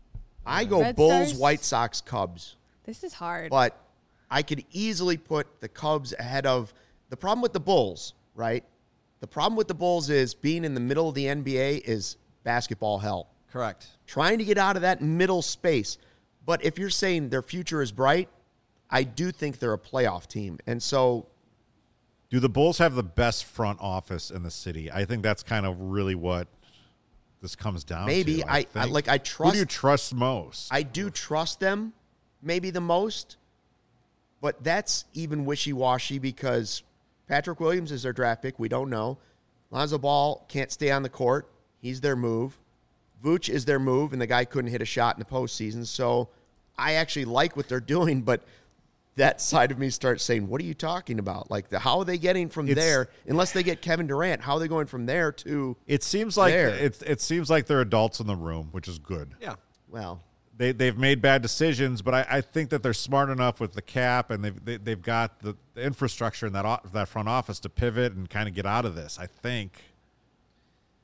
I go Red Bulls, Stars? White Sox, Cubs. This is hard. But I could easily put the Cubs ahead of the problem with the Bulls, right? The problem with the Bulls is being in the middle of the NBA is basketball hell. Correct. Trying to get out of that middle space. But if you're saying their future is bright, I do think they're a playoff team. And so do the Bulls have the best front office in the city? I think that's kind of really what this comes down maybe to. I think. I Who do you trust trust most? I do trust them maybe the most, but that's even wishy-washy because Patrick Williams is their draft pick. We don't know. Lonzo Ball can't stay on the court. He's their move. Vooch is their move, and the guy couldn't hit a shot in the postseason. So I actually like what they're doing, but that side of me starts saying, what are you talking about? Like, how are they getting from there, unless they get Kevin Durant, how are they going from there to It seems like there? it seems like they're adults in the room, which is good. Yeah. well, They've made bad decisions, but I think that they're smart enough with the cap, and they've got the infrastructure in that front office to pivot and kind of get out of this. I think.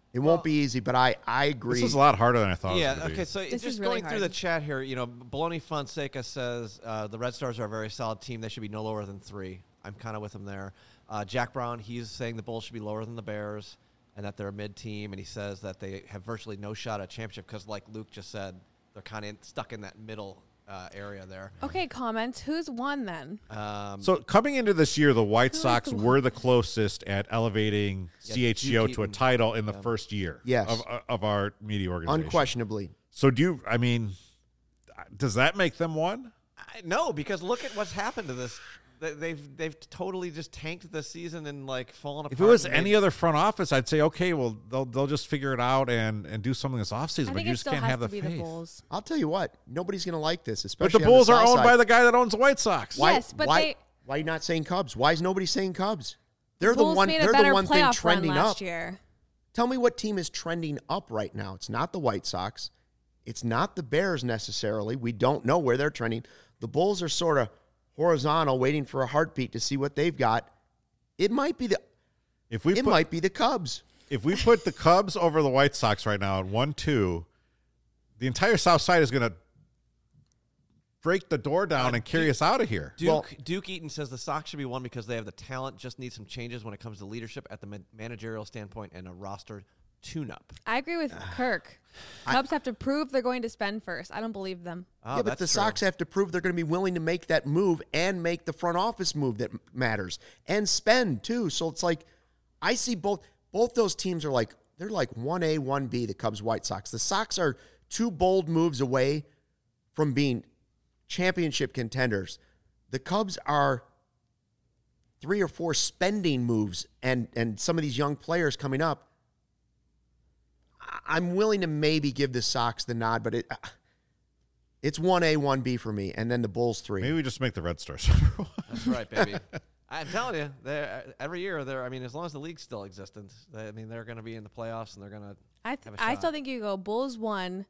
It won't be easy, but I agree. This is a lot harder than I thought. Yeah. It was gonna Okay. be. So This just is really going through the hard. chat here, Baloney Fonseca says the Red Stars are a very solid team. They should be no lower than 3. I'm kind of with him there. Jack Brown, he's saying the Bulls should be lower than the Bears and that they're a mid-team, and he says that they have virtually no shot at championship because, like Luke just said, they're kind of stuck in that middle area there. Okay, comments. Who's won then? So coming into this year, the White is Sox the were the closest at elevating Yeah, CHGO Duke to a Eaton. title in the first year Yes. of our media organization. unquestionably. So does that make them one? No, because look at what's happened to this. They've totally just tanked the season and like fallen apart. If it was and any other front office, I'd say, okay, well, they'll just figure it out and do something this offseason, I but think you it just still can't has have to the be faith. the Bulls. I'll tell you what, nobody's going to like this, But especially the on Bulls are South owned side. by the guy that owns the White Sox. Why, Yes, but why are you not saying Cubs? Why is nobody saying Cubs? They're the Bulls one. made a They're better the one thing playoff run trending last up. year. Tell me what team is trending up right now. It's not the White Sox. It's not the Bears necessarily. We don't know where they're trending. The Bulls are sort of horizontal, waiting for a heartbeat to see what they've got. It might be the might be the Cubs. If we put the Cubs over the White Sox right now at 1-2, the entire South Side is going to break the door down and carry us out of here. Duke Eaton says the Sox should be one because they have the talent, just need some changes when it comes to leadership at the managerial standpoint and a roster tune-up. I agree with Kirk. Cubs have to prove they're going to spend first. I don't believe them. Oh, Yeah, but the that's true. Sox have to prove they're going to be willing to make that move and make the front office move that matters and spend too. So it's like I see both those teams are like they're like 1A, 1B, the Cubs, White Sox. The Sox are 2 bold moves away from being championship contenders. The Cubs are 3 or 4 spending moves and some of these young players coming up. I'm willing to maybe give the Sox the nod, but it's 1A, 1B for me, and then the Bulls 3. Maybe we just make the Red Stars. That's right, baby. I'm telling you, every year they're. I mean, as long as the league's still existent, they're going to be in the playoffs and they're going to. I still think you go Bulls 1,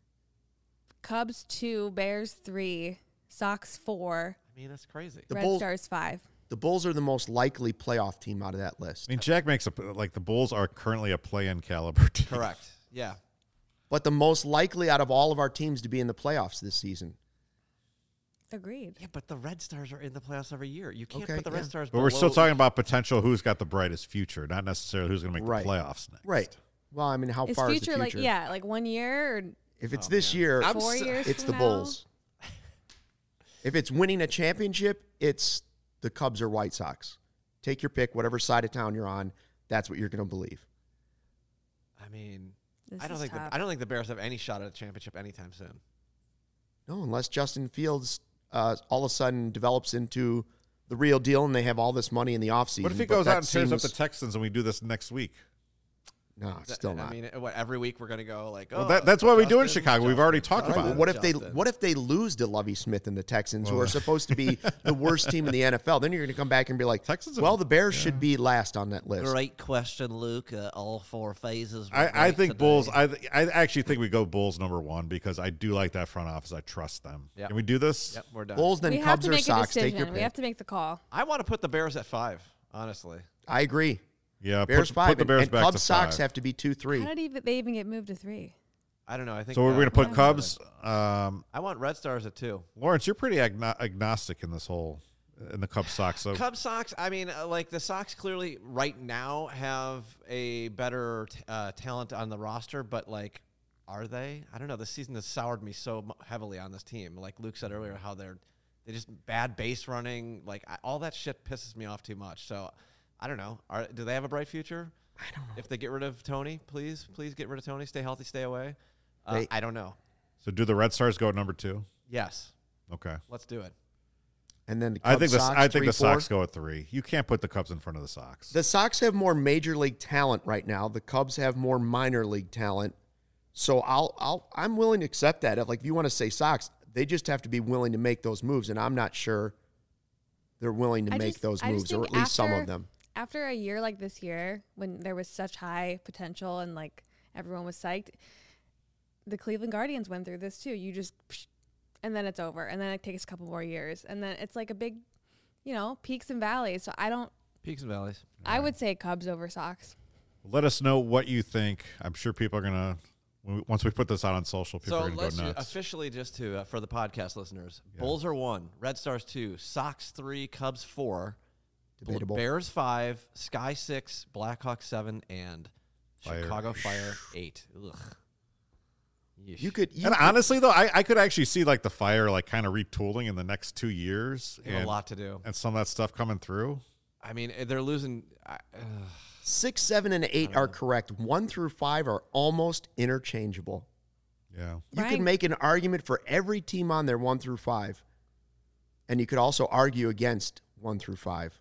Cubs 2, Bears 3, Sox 4, I mean, that's crazy. The Red Bulls- Stars 5. The Bulls are the most likely playoff team out of that list. I mean, Jack makes the Bulls are currently a play-in caliber team. Correct. Yeah. But the most likely out of all of our teams to be in the playoffs this season. Agreed. Yeah, but the Red Stars are in the playoffs every year. You can't Okay, put the yeah. Red Stars. But we're still below- talking about potential who's got the brightest future, not necessarily who's going to make Right. the playoffs next. Right. Well, I mean, how Is far future, is the future? like 1 year or If it's this year, 4 years it's from the now? Bulls. If it's winning a championship, it's the Cubs or White Sox. Take your pick, whatever side of town you're on. That's what you're going to believe. I mean, This I don't is think tough. I don't think the Bears have any shot at a championship anytime soon. No, unless Justin Fields all of a sudden develops into the real deal and they have all this money in the offseason. What if he but goes that out and tears up seems- the Texans and we do this next week? No, still not. I mean, every week we're going to go like, Well, oh, that's what we do in Justin, Chicago. We've already Justin, talked All right, about well, it. what if they lose to Lovie Smith and the Texans, who are supposed to be the worst team in the NFL? Then you're going to come back and be like, Texans well, have- the Bears should be last on that list. Great question, Luke. All 4 phases. were I great think today. Bulls. I actually think we go Bulls number 1 because I do like that front office. I trust them. Yep. Can we do this? Yep, we're done. Bulls, then we have Cubs to or make a Sox. Take your decision. pick. We have to make the call. I want to put the Bears at 5. Honestly, I agree. Yeah. Bears put 5. the Bears and back Cubs, to Sox 5. have to be 2-3. How did they even get moved to 3? I don't know. I think So we're going to put I Cubs. I want Red Stars at 2. Lawrence, you're pretty agnostic in this whole in the Cubs Sox. So Cubs Sox. I mean, like the Sox clearly right now have a better talent on the roster, but like, are they? I don't know. This season has soured me so heavily on this team. Like Luke said earlier, how they just bad base running. Like all that shit pisses me off too much. So I don't know. Do they have a bright future? I don't know. If they get rid of Tony, please get rid of Tony. Stay healthy, stay away. They- I don't know. So do the Red Stars go at number 2? Yes, Okay. let's do it. And then the I Cubs, think the Sox, I think the 3-4. Sox go at 3. You can't put the Cubs in front of the Sox. The Sox have more major league talent right now. The Cubs have more minor league talent. So I'm willing to accept that. Like if you want to say Sox, they just have to be willing to make those moves, and I'm not sure they're willing to make those I just moves, or think at least some after- of them. After a year like this year, when there was such high potential and like everyone was psyched, the Cleveland Guardians went through this too. You just, and then it's over, and then it takes a couple more years, and then it's like a big, peaks and valleys. So Peaks and valleys. I would say Cubs over Sox. Let us know what you think. I'm sure people are going to, once we put this out on social, people are going to go nuts. Officially, just to for the podcast listeners, Bulls are 1, Red Stars 2, Sox 3, Cubs 4, Debatable. Bears 5, Sky 6, Blackhawks 7, and Chicago Fire 8. Ugh. You could honestly, though, I could actually see like the Fire like kind of retooling in the next 2 years. A lot to do. And some of that stuff coming through. I mean, they're losing. 6, 7, and 8 are correct. 1 through 5 are almost interchangeable. Yeah. You could make an argument for every team on there 1 through 5. And you could also argue against 1 through 5.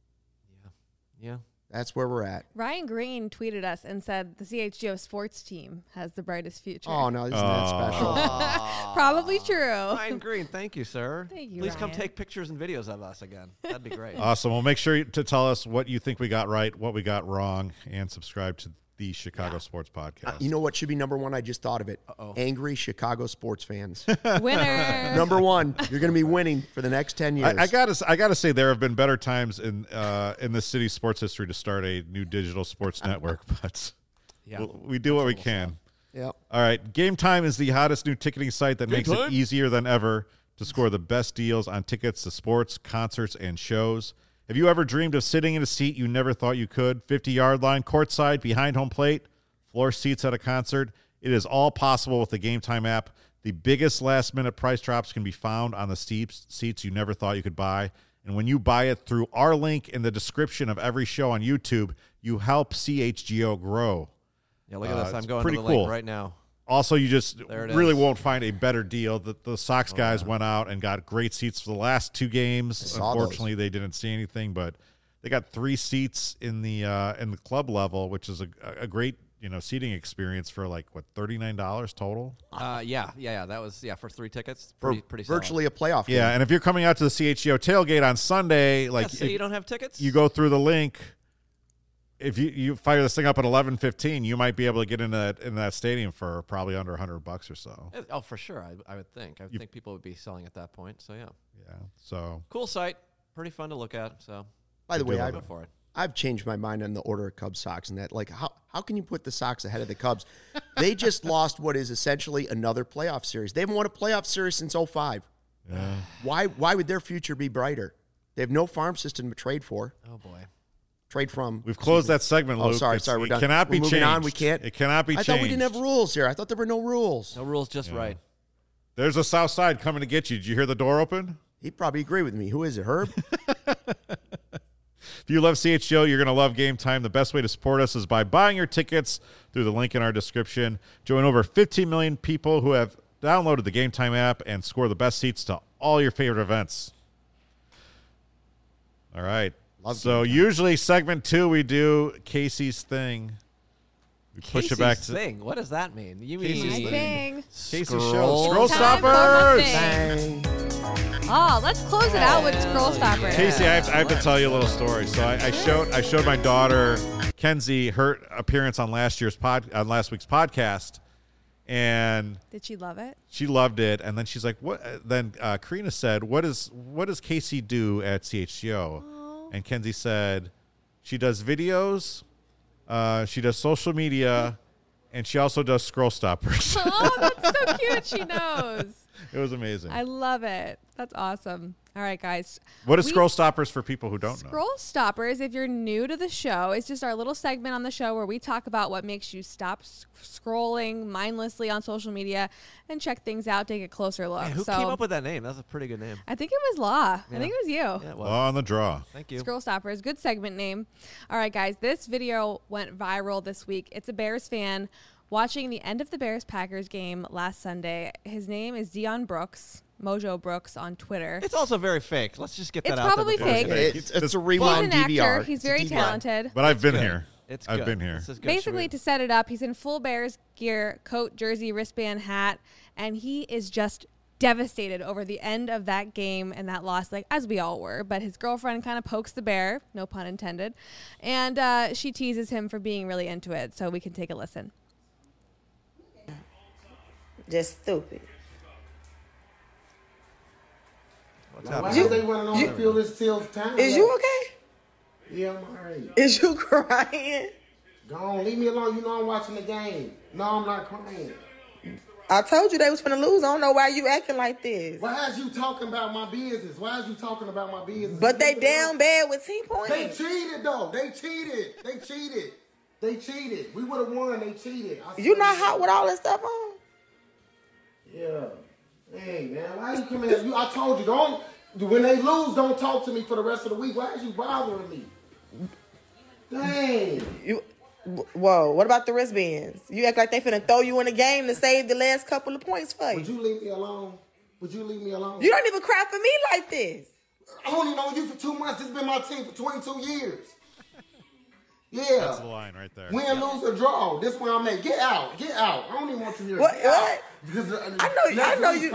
Yeah. That's where we're at. Ryan Green tweeted us and said the CHGO sports team has the brightest future. Oh, no, isn't that special? Probably true. Ryan Green, thank you, sir. Thank you, Please come Ryan. take pictures and videos of us again. That'd be great. Awesome. Well, make sure to tell us what you think we got right, what we got wrong, and subscribe to the Chicago Sports Podcast. You know what should be number 1? I just thought of it. Angry Chicago sports fans. Winner. Number 1. You're going to be winning for the next 10 years. I gotta say there have been better times in the city's sports history to start a new digital sports network, but we do what we can. Yep. All right. Game Time is the hottest new ticketing site that makes it easier than ever to score the best deals on tickets to sports, concerts, and shows. Have you ever dreamed of sitting in a seat you never thought you could? 50-yard line, courtside, behind home plate, floor seats at a concert. It is all possible with the Game Time app. The biggest last-minute price drops can be found on the seats you never thought you could buy. And when you buy it through our link in the description of every show on YouTube, you help CHGO grow. Yeah, look at this. I'm going pretty to the cool. link right now. Also, you just really won't find a better deal. The Sox guys went out and got great seats for the last 2 games. Unfortunately, they didn't see anything, but they got 3 seats in the club level, which is a great seating experience for like what $39 total. Yeah. That was for 3 tickets. For Pretty virtually a playoff game. Yeah, and if you're coming out to the CHGO tailgate on Sunday, like so you don't have tickets, you go through the link. If you fire this thing up at 11:15, you might be able to get in that stadium for probably under $100 or so. Oh, for sure. I would think. I would think people would be selling at that point. So yeah. So cool site. Pretty fun to look at. So by the way, I've changed my mind on the order of Cubs Sox and that. Like, how can you put the Sox ahead of the Cubs? They just lost what is essentially another playoff series. They haven't won a playoff series since 2005. Yeah. Why would their future be brighter? They have no farm system to trade for. Oh boy. Trade from. We've closed that segment, Luke. Sorry, we're done. It cannot be changed. On. We can't. It cannot be changed. I thought we didn't have rules here. I thought there were no rules. No rules, just right. There's a South Side coming to get you. Did you hear the door open? He'd probably agree with me. Who is it, Herb? If you love CHGO, you're going to love Game Time. The best way to support us is by buying your tickets through the link in our description. Join over 15 million people who have downloaded the Game Time app and score the best seats to all your favorite events. All right. So usually segment 2 we do Casey's thing. We push it back to thing. What does that mean? You Casey's mean thing. Casey's show. Scroll Time Stoppers. Bang. Oh, let's close it out with Scroll Stoppers. Casey, I have to tell you a little story. So I showed my daughter Kenzie her appearance on last week's podcast, and Did she love it? she loved it. And then she's like, "What?" Then Karina said, "What does Casey do at CHGO?" And Kenzie said, "She does videos, she does social media, and she also does Scroll Stoppers." Oh, that's so cute. She knows. It was amazing. I love it. That's awesome. All right, guys. What is Scroll Stoppers for people who don't know? Scroll Stoppers, if you're new to the show, it's just our little segment on the show where we talk about what makes you stop scrolling mindlessly on social media and check things out, take a closer look. Man, who came up with that name? That's a pretty good name. I think it was Law. Yeah. I think it was you. Yeah, well, On the draw. thank you. Scroll Stoppers, good segment name. All right, guys, this video went viral this week. It's a Bears fan watching the end of the Bears-Packers game last Sunday. His name is Dion Brooks, Mojo Brooks on Twitter. It's also very fake. Let's just get that It's out probably there. fake. It's a He's rewind an DVR. actor. He's very talented. But I've been good. here. I've Good. been here. This is good. Basically, Should to set it up, he's in full Bears gear, coat, jersey, wristband, hat, and he is just devastated over the end of that game and that loss, like as we all were. But his girlfriend kind of pokes the bear, no pun intended, and she teases him for being really into it. So we can take a listen. Just stupid. What's Why happening? they running on the field this till time? Is you okay? Yeah, I'm alright. Is you crying? Go on, leave me alone. You know I'm watching the game. No, I'm not crying. I told you they was finna lose. I don't know why you acting like this. Why is you talking about my business? But they down bad with 10 points. They cheated, though. They cheated. We would have won. They cheated. You not hot with all that stuff on? Yeah. Hey, man. Why you coming at you? I told you, don't. When they lose, don't talk to me for the rest of the week. Why is you bothering me? Dang. Whoa, what about the wristbands? You act like they finna throw you in the game to save the last couple of points for you. Would you leave me alone? You don't even cry for me like this. I only known you for 2 months. This has been my team for 22 years. Yeah. That's the line right there. Win, lose, or draw. This is where I'm at. Get out. I don't even want you here. What? Because I know you.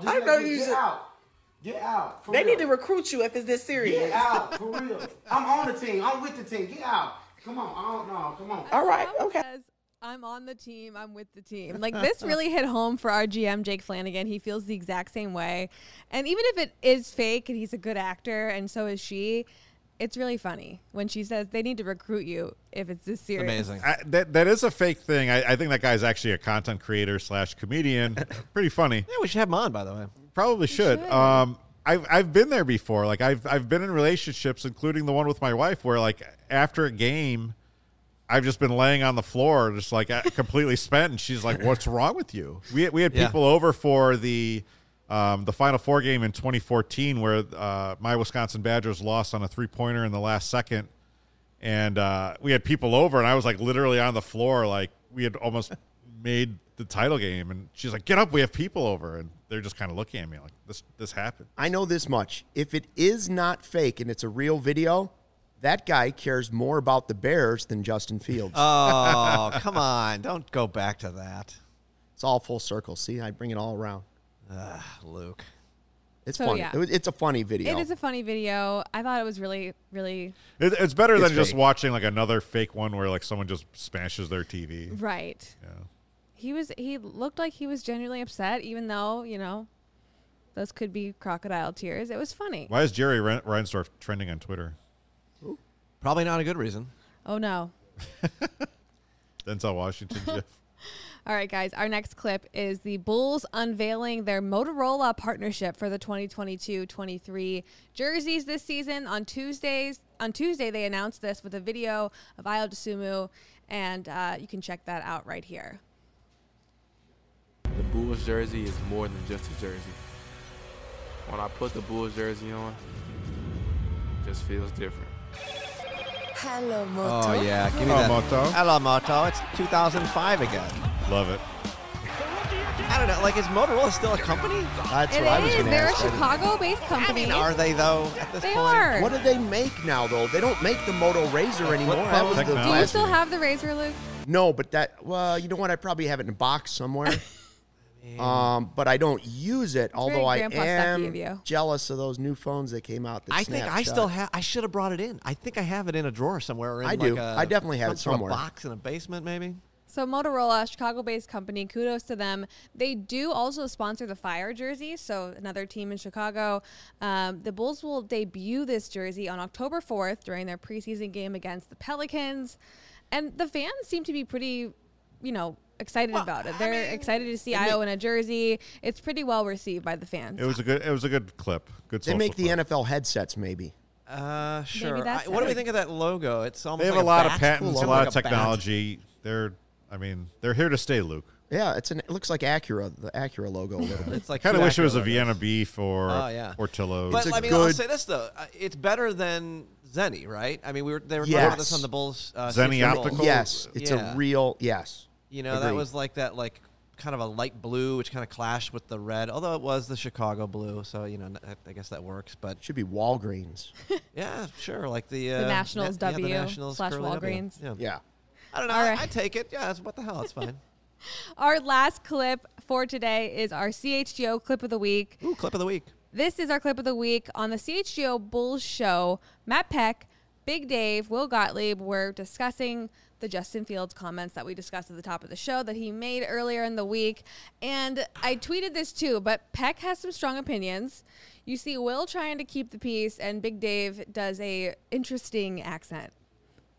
Get out. They need to recruit you if it's this serious. Get out, for real. I'm on the team. I'm with the team. Get out. Come on. Come on. All right. Tom Okay. says, I'm on the team. I'm with the team. Like, this really hit home for our GM, Jake Flanagan. He feels the exact same way. And even if it is fake and he's a good actor and so is she, it's really funny when she says they need to recruit you if it's this serious. Amazing. That is a fake thing. I think that guy's actually a content creator / comedian. Pretty funny. Yeah, we should have him on, by the way. Probably should. I've been there before. Like I've been in relationships, including the one with my wife, where like after a game, I've just been laying on the floor, just like completely spent, and she's like, "What's wrong with you?" We had people over for the Final Four game in 2014, where my Wisconsin Badgers lost on a 3-pointer in the last second, and we had people over, and I was like literally on the floor, like we had almost made the title game, and she's like, "Get up, we have people over," and they're just kind of looking at me like this happened. I know this much. If it is not fake and it's a real video, that guy cares more about the Bears than Justin Fields. Oh, come on. Don't go back to that. It's all full circle. See, I bring it all around. Luke. It's So, funny. yeah. It's a funny video. It is a funny video. I thought it was really, really It's better than just fake. watching like another fake one where like someone just smashes their TV. right. Yeah. He looked like he was genuinely upset, even though, those could be crocodile tears. It was funny. Why is Jerry Reinsdorf trending on Twitter? Probably not a good reason. Oh, no. Denzel Washington, Jeff. All right, guys. Our next clip is the Bulls unveiling their Motorola partnership for the 2022-23 jerseys this season. On Tuesday, they announced this with a video of Ayo Dosunmu, and you can check that out right here. The Bulls jersey is more than just a jersey. When I put the Bulls jersey on, it just feels different. Hello, Moto. Oh, yeah. Give me Hello, that. Moto. Hello, Moto. It's 2005 again. Love it. I don't know. Like, is Motorola still a company? That's It what I was is. going to They're a ask. Chicago-based I company. mean, are they, though, at this They point? are. What do they make now, though? They don't make the Moto Razr anymore. flip That was phone? the Technology. Do you last- still have the Razor, Luke? No, but you know what? I probably have it in a box somewhere. But I don't use it, although I very grandpa stucky am of you. jealous of those new phones that came out. That I think I Snapchat. still have. I should have brought it in. I think I have it in a drawer somewhere. Or in I like do. A, I definitely have some it sort of somewhere. box in a basement, maybe. So Motorola, Chicago-based company, kudos to them. They do also sponsor the Fire jersey, so another team in Chicago. The Bulls will debut this jersey on October 4th during their preseason game against the Pelicans. And the fans seem to be pretty, excited about it. They're excited to see Ayo in a jersey. It's pretty well received by the fans. It was a good clip. Good. They social make the clip. NFL headsets, maybe. Sure. that's What do we it. think of that logo? It's almost They have like a lot of bat. patents, It's a lot like of bat. technology. They're here to stay, Luke. Yeah, it looks like Acura, the Acura logo a little bit. It's like Kind of two wish it was a Acura Vienna logos. beef or Oh, yeah. Portillo's. But It's a I mean, I'll good- say this though, it's better than Zenny, right? I mean, they were talking Yes. about this on the Bulls. Zenny Super Bowl. Optical? Yes, it's Yeah. a real yes. That Agreed. was like that, like kind of a light blue, which kind of clashed with the red. Although it was the Chicago blue, so I guess that works. But Should be Walgreens. yeah, sure, like the Nationals the W Nationals / curly W. Walgreens. Yeah. Yeah. I don't know. All right. I take it. Yeah, what the hell? It's fine. Our last clip for today is our CHGO clip of the week. Ooh, clip of the week. This is our clip of the week on the CHGO Bulls show. Matt Peck, Big Dave, Will Gottlieb were discussing the Justin Fields comments that we discussed at the top of the show that he made earlier in the week. And I tweeted this too, but Peck has some strong opinions. You see Will trying to keep the peace, and Big Dave does a interesting accent.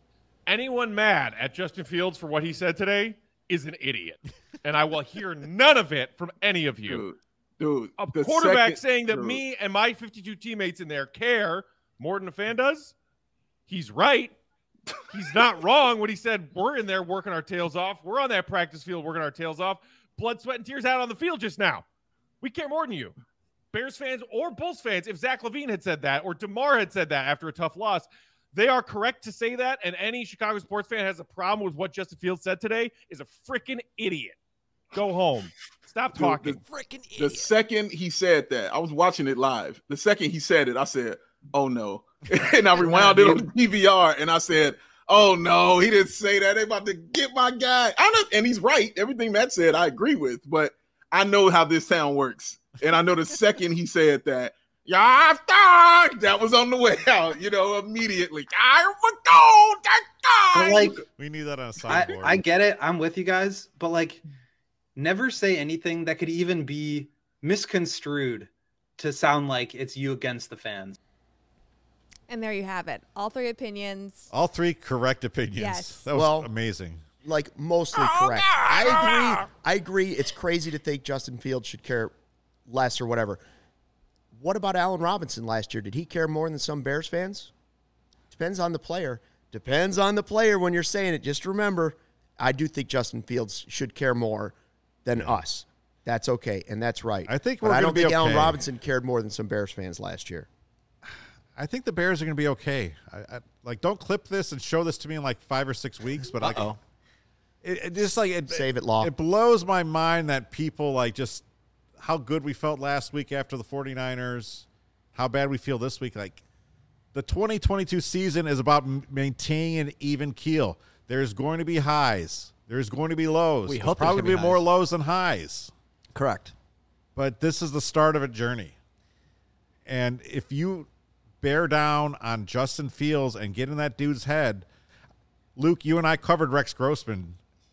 anyone mad at Justin Fields for what he said today is an idiot. And I will hear none of it from any of you. Dude, a quarterback saying that me and my 52 teammates in there care more than a fan does, he's right. He's not wrong when he said we're in there working our tails off. We're on that practice field working our tails off. Blood, sweat, and tears out on the field just now. We care more than you. Bears fans or Bulls fans, if Zach LaVine had said that or DeMar had said that after a tough loss, they are correct to say that, and any Chicago sports fan has a problem with what Justin Fields said today is a freaking idiot. Go home. Stop talking. Freaking idiot. The second he said that, I was watching it live. The second he said it, I said, oh, no. And I rewound it on the DVR, and I said, oh, no, he didn't say that. They about to get my guy. And he's right. Everything Matt said, I agree with. But I know how this town works. And I know the second he said that, that was on the way out, immediately. But like, we need that on a soundboard. I get it. I'm with you guys. But like, never say anything that could even be misconstrued to sound like it's you against the fans. And there you have it. All three opinions. All three correct opinions. Yes. That was amazing. Like, mostly correct. I agree. It's crazy to think Justin Fields should care less or whatever. What about Allen Robinson last year? Did he care more than some Bears fans? Depends on the player. Depends on the player when you're saying it. Just remember, I do think Justin Fields should care more than us. That's okay, and that's right. I think I don't think Allen okay. Robinson cared more than some Bears fans last year. I think the Bears are going to be okay. Like, don't clip this and show this to me in like 5 or 6 weeks. But it just like save it, Law. It blows my mind that people like just how good we felt last week after the 49ers, how bad we feel this week. Like, the 2022 season is about maintaining an even keel. There's going to be highs. There's going to be lows. We There's hope probably be more lows than highs. Correct. But this is the start of a journey. And if you bear down on Justin Fields and get in that dude's head, Luke, you and I covered Rex Grossman.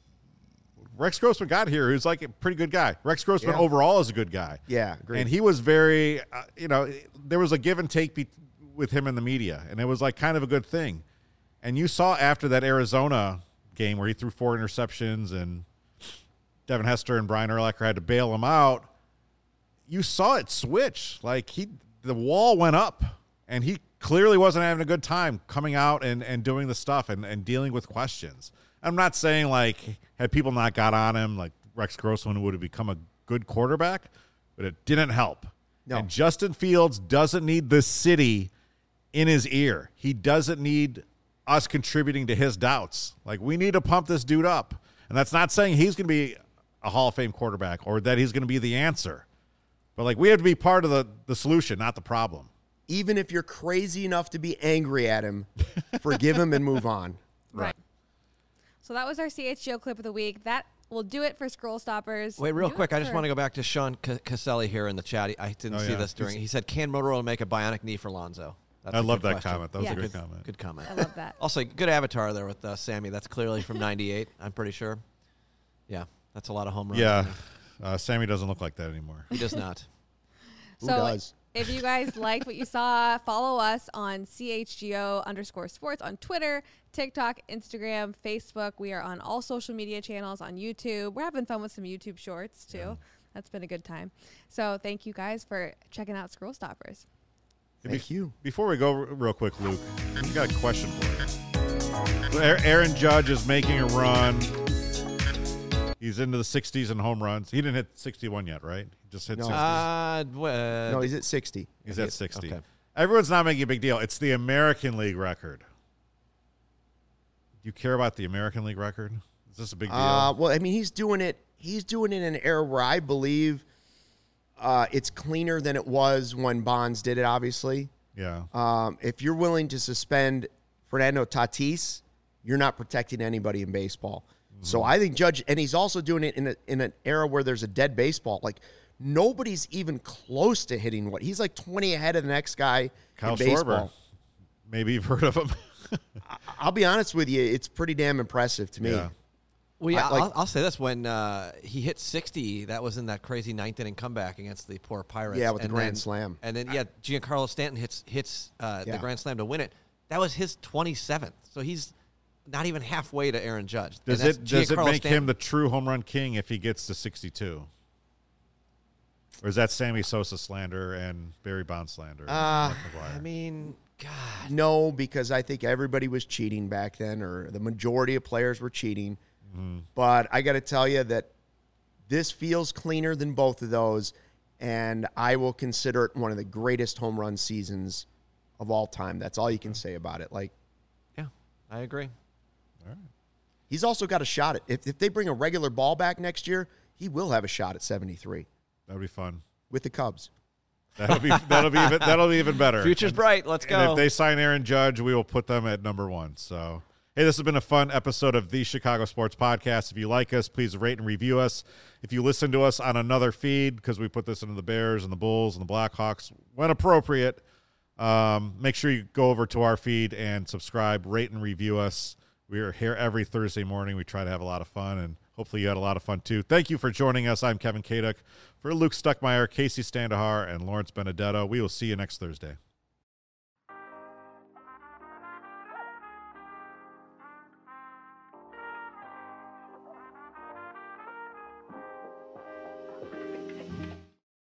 Rex Grossman got here. He was like a pretty good guy. Rex Grossman overall is a good guy. Yeah, agreed. And he was very, there was a give and take with him in the media, and it was like kind of a good thing. And you saw after that Arizona game where he threw 4 interceptions and Devin Hester and Brian Urlacher had to bail him out, you saw it switch. Like, the wall went up, and he clearly wasn't having a good time coming out and doing the stuff and dealing with questions. I'm not saying, like, had people not got on him, like Rex Grossman would have become a good quarterback, but it didn't help. No. And Justin Fields doesn't need the city in his ear. He doesn't need us contributing to his doubts. Like, we need to pump this dude up. And that's not saying he's going to be a Hall of Fame quarterback or that he's going to be the answer. But, like, we have to be part of the solution, not the problem. Even if you're crazy enough to be angry at him, forgive him and move on. Right. So that was our CHGO clip of the week. That will do it for Scroll Stoppers. Wait, real quick. I just want to go back to Sean Caselli here in the chat. I didn't see this during. He said, "Can Motorola make a bionic knee for Lonzo?" I love that comment. That was a good comment. Good comment. I love that. Also, good avatar there with Sammy. That's clearly from '98. I'm pretty sure. Yeah, that's a lot of home runs. Yeah, Sammy doesn't look like that anymore. He does not. Who does? If you guys liked what you saw, follow us on CHGO_sports on Twitter, TikTok, Instagram, Facebook. We are on all social media channels on YouTube. We're having fun with some YouTube shorts, too. Yeah. That's been a good time. So thank you guys for checking out Scroll Stoppers. Thank you. Before we go real quick, Luke, we got a question for you. Aaron Judge is making a run. He's into the 60s in home runs. He didn't hit 61 yet, right? He just hit 60. No, he's at 60. He's at 60. Okay. Everyone's not making a big deal. It's the American League record. Do you care about the American League record? Is this a big deal? Well, I mean, he's doing it in an era where I believe it's cleaner than it was when Bonds did it, obviously. Yeah. If you're willing to suspend Fernando Tatis, you're not protecting anybody in baseball. So I think Judge, and he's also doing it in an era where there's a dead baseball. Like, nobody's even close to hitting what he's like 20 ahead of the next guy Kyle in baseball. Schwarber. Maybe you've heard of him. I'll be honest with you, it's pretty damn impressive to me. Yeah. Well, yeah, I'll say this. When he hit 60, that was in that crazy ninth inning comeback against the poor Pirates. Yeah, with the grand slam. And then, Giancarlo Stanton hits the grand slam to win it. That was his 27th. So he's not even halfway to Aaron Judge. Does And it that's does it Giancarlo make Stanton. him the true home run king if he gets to 62? Or is that Sammy Sosa slander and Barry Bonds slander? I mean, God. No, because I think everybody was cheating back then, or the majority of players were cheating. Mm-hmm. But I got to tell you that this feels cleaner than both of those, and I will consider it one of the greatest home run seasons of all time. That's all you can say about it. Like, yeah, I agree. All right. He's also got a shot at if they bring a regular ball back next year, he will have a shot at 73. That'll be fun with the Cubs. That'll be even better. Future's bright. Let's go. And if they sign Aaron Judge, we will put them at number 1. So, hey, this has been a fun episode of the Chicago Sports Podcast. If you like us, please rate and review us. If you listen to us on another feed, because we put this into the Bears and the Bulls and the Blackhawks when appropriate, make sure you go over to our feed and subscribe, rate and review us. We are here every Thursday morning. We try to have a lot of fun, and hopefully you had a lot of fun too. Thank you for joining us. I'm Kevin Kaduk. For Luke Stuckmeyer, Casey Standahar, and Lawrence Benedetto, we will see you next Thursday.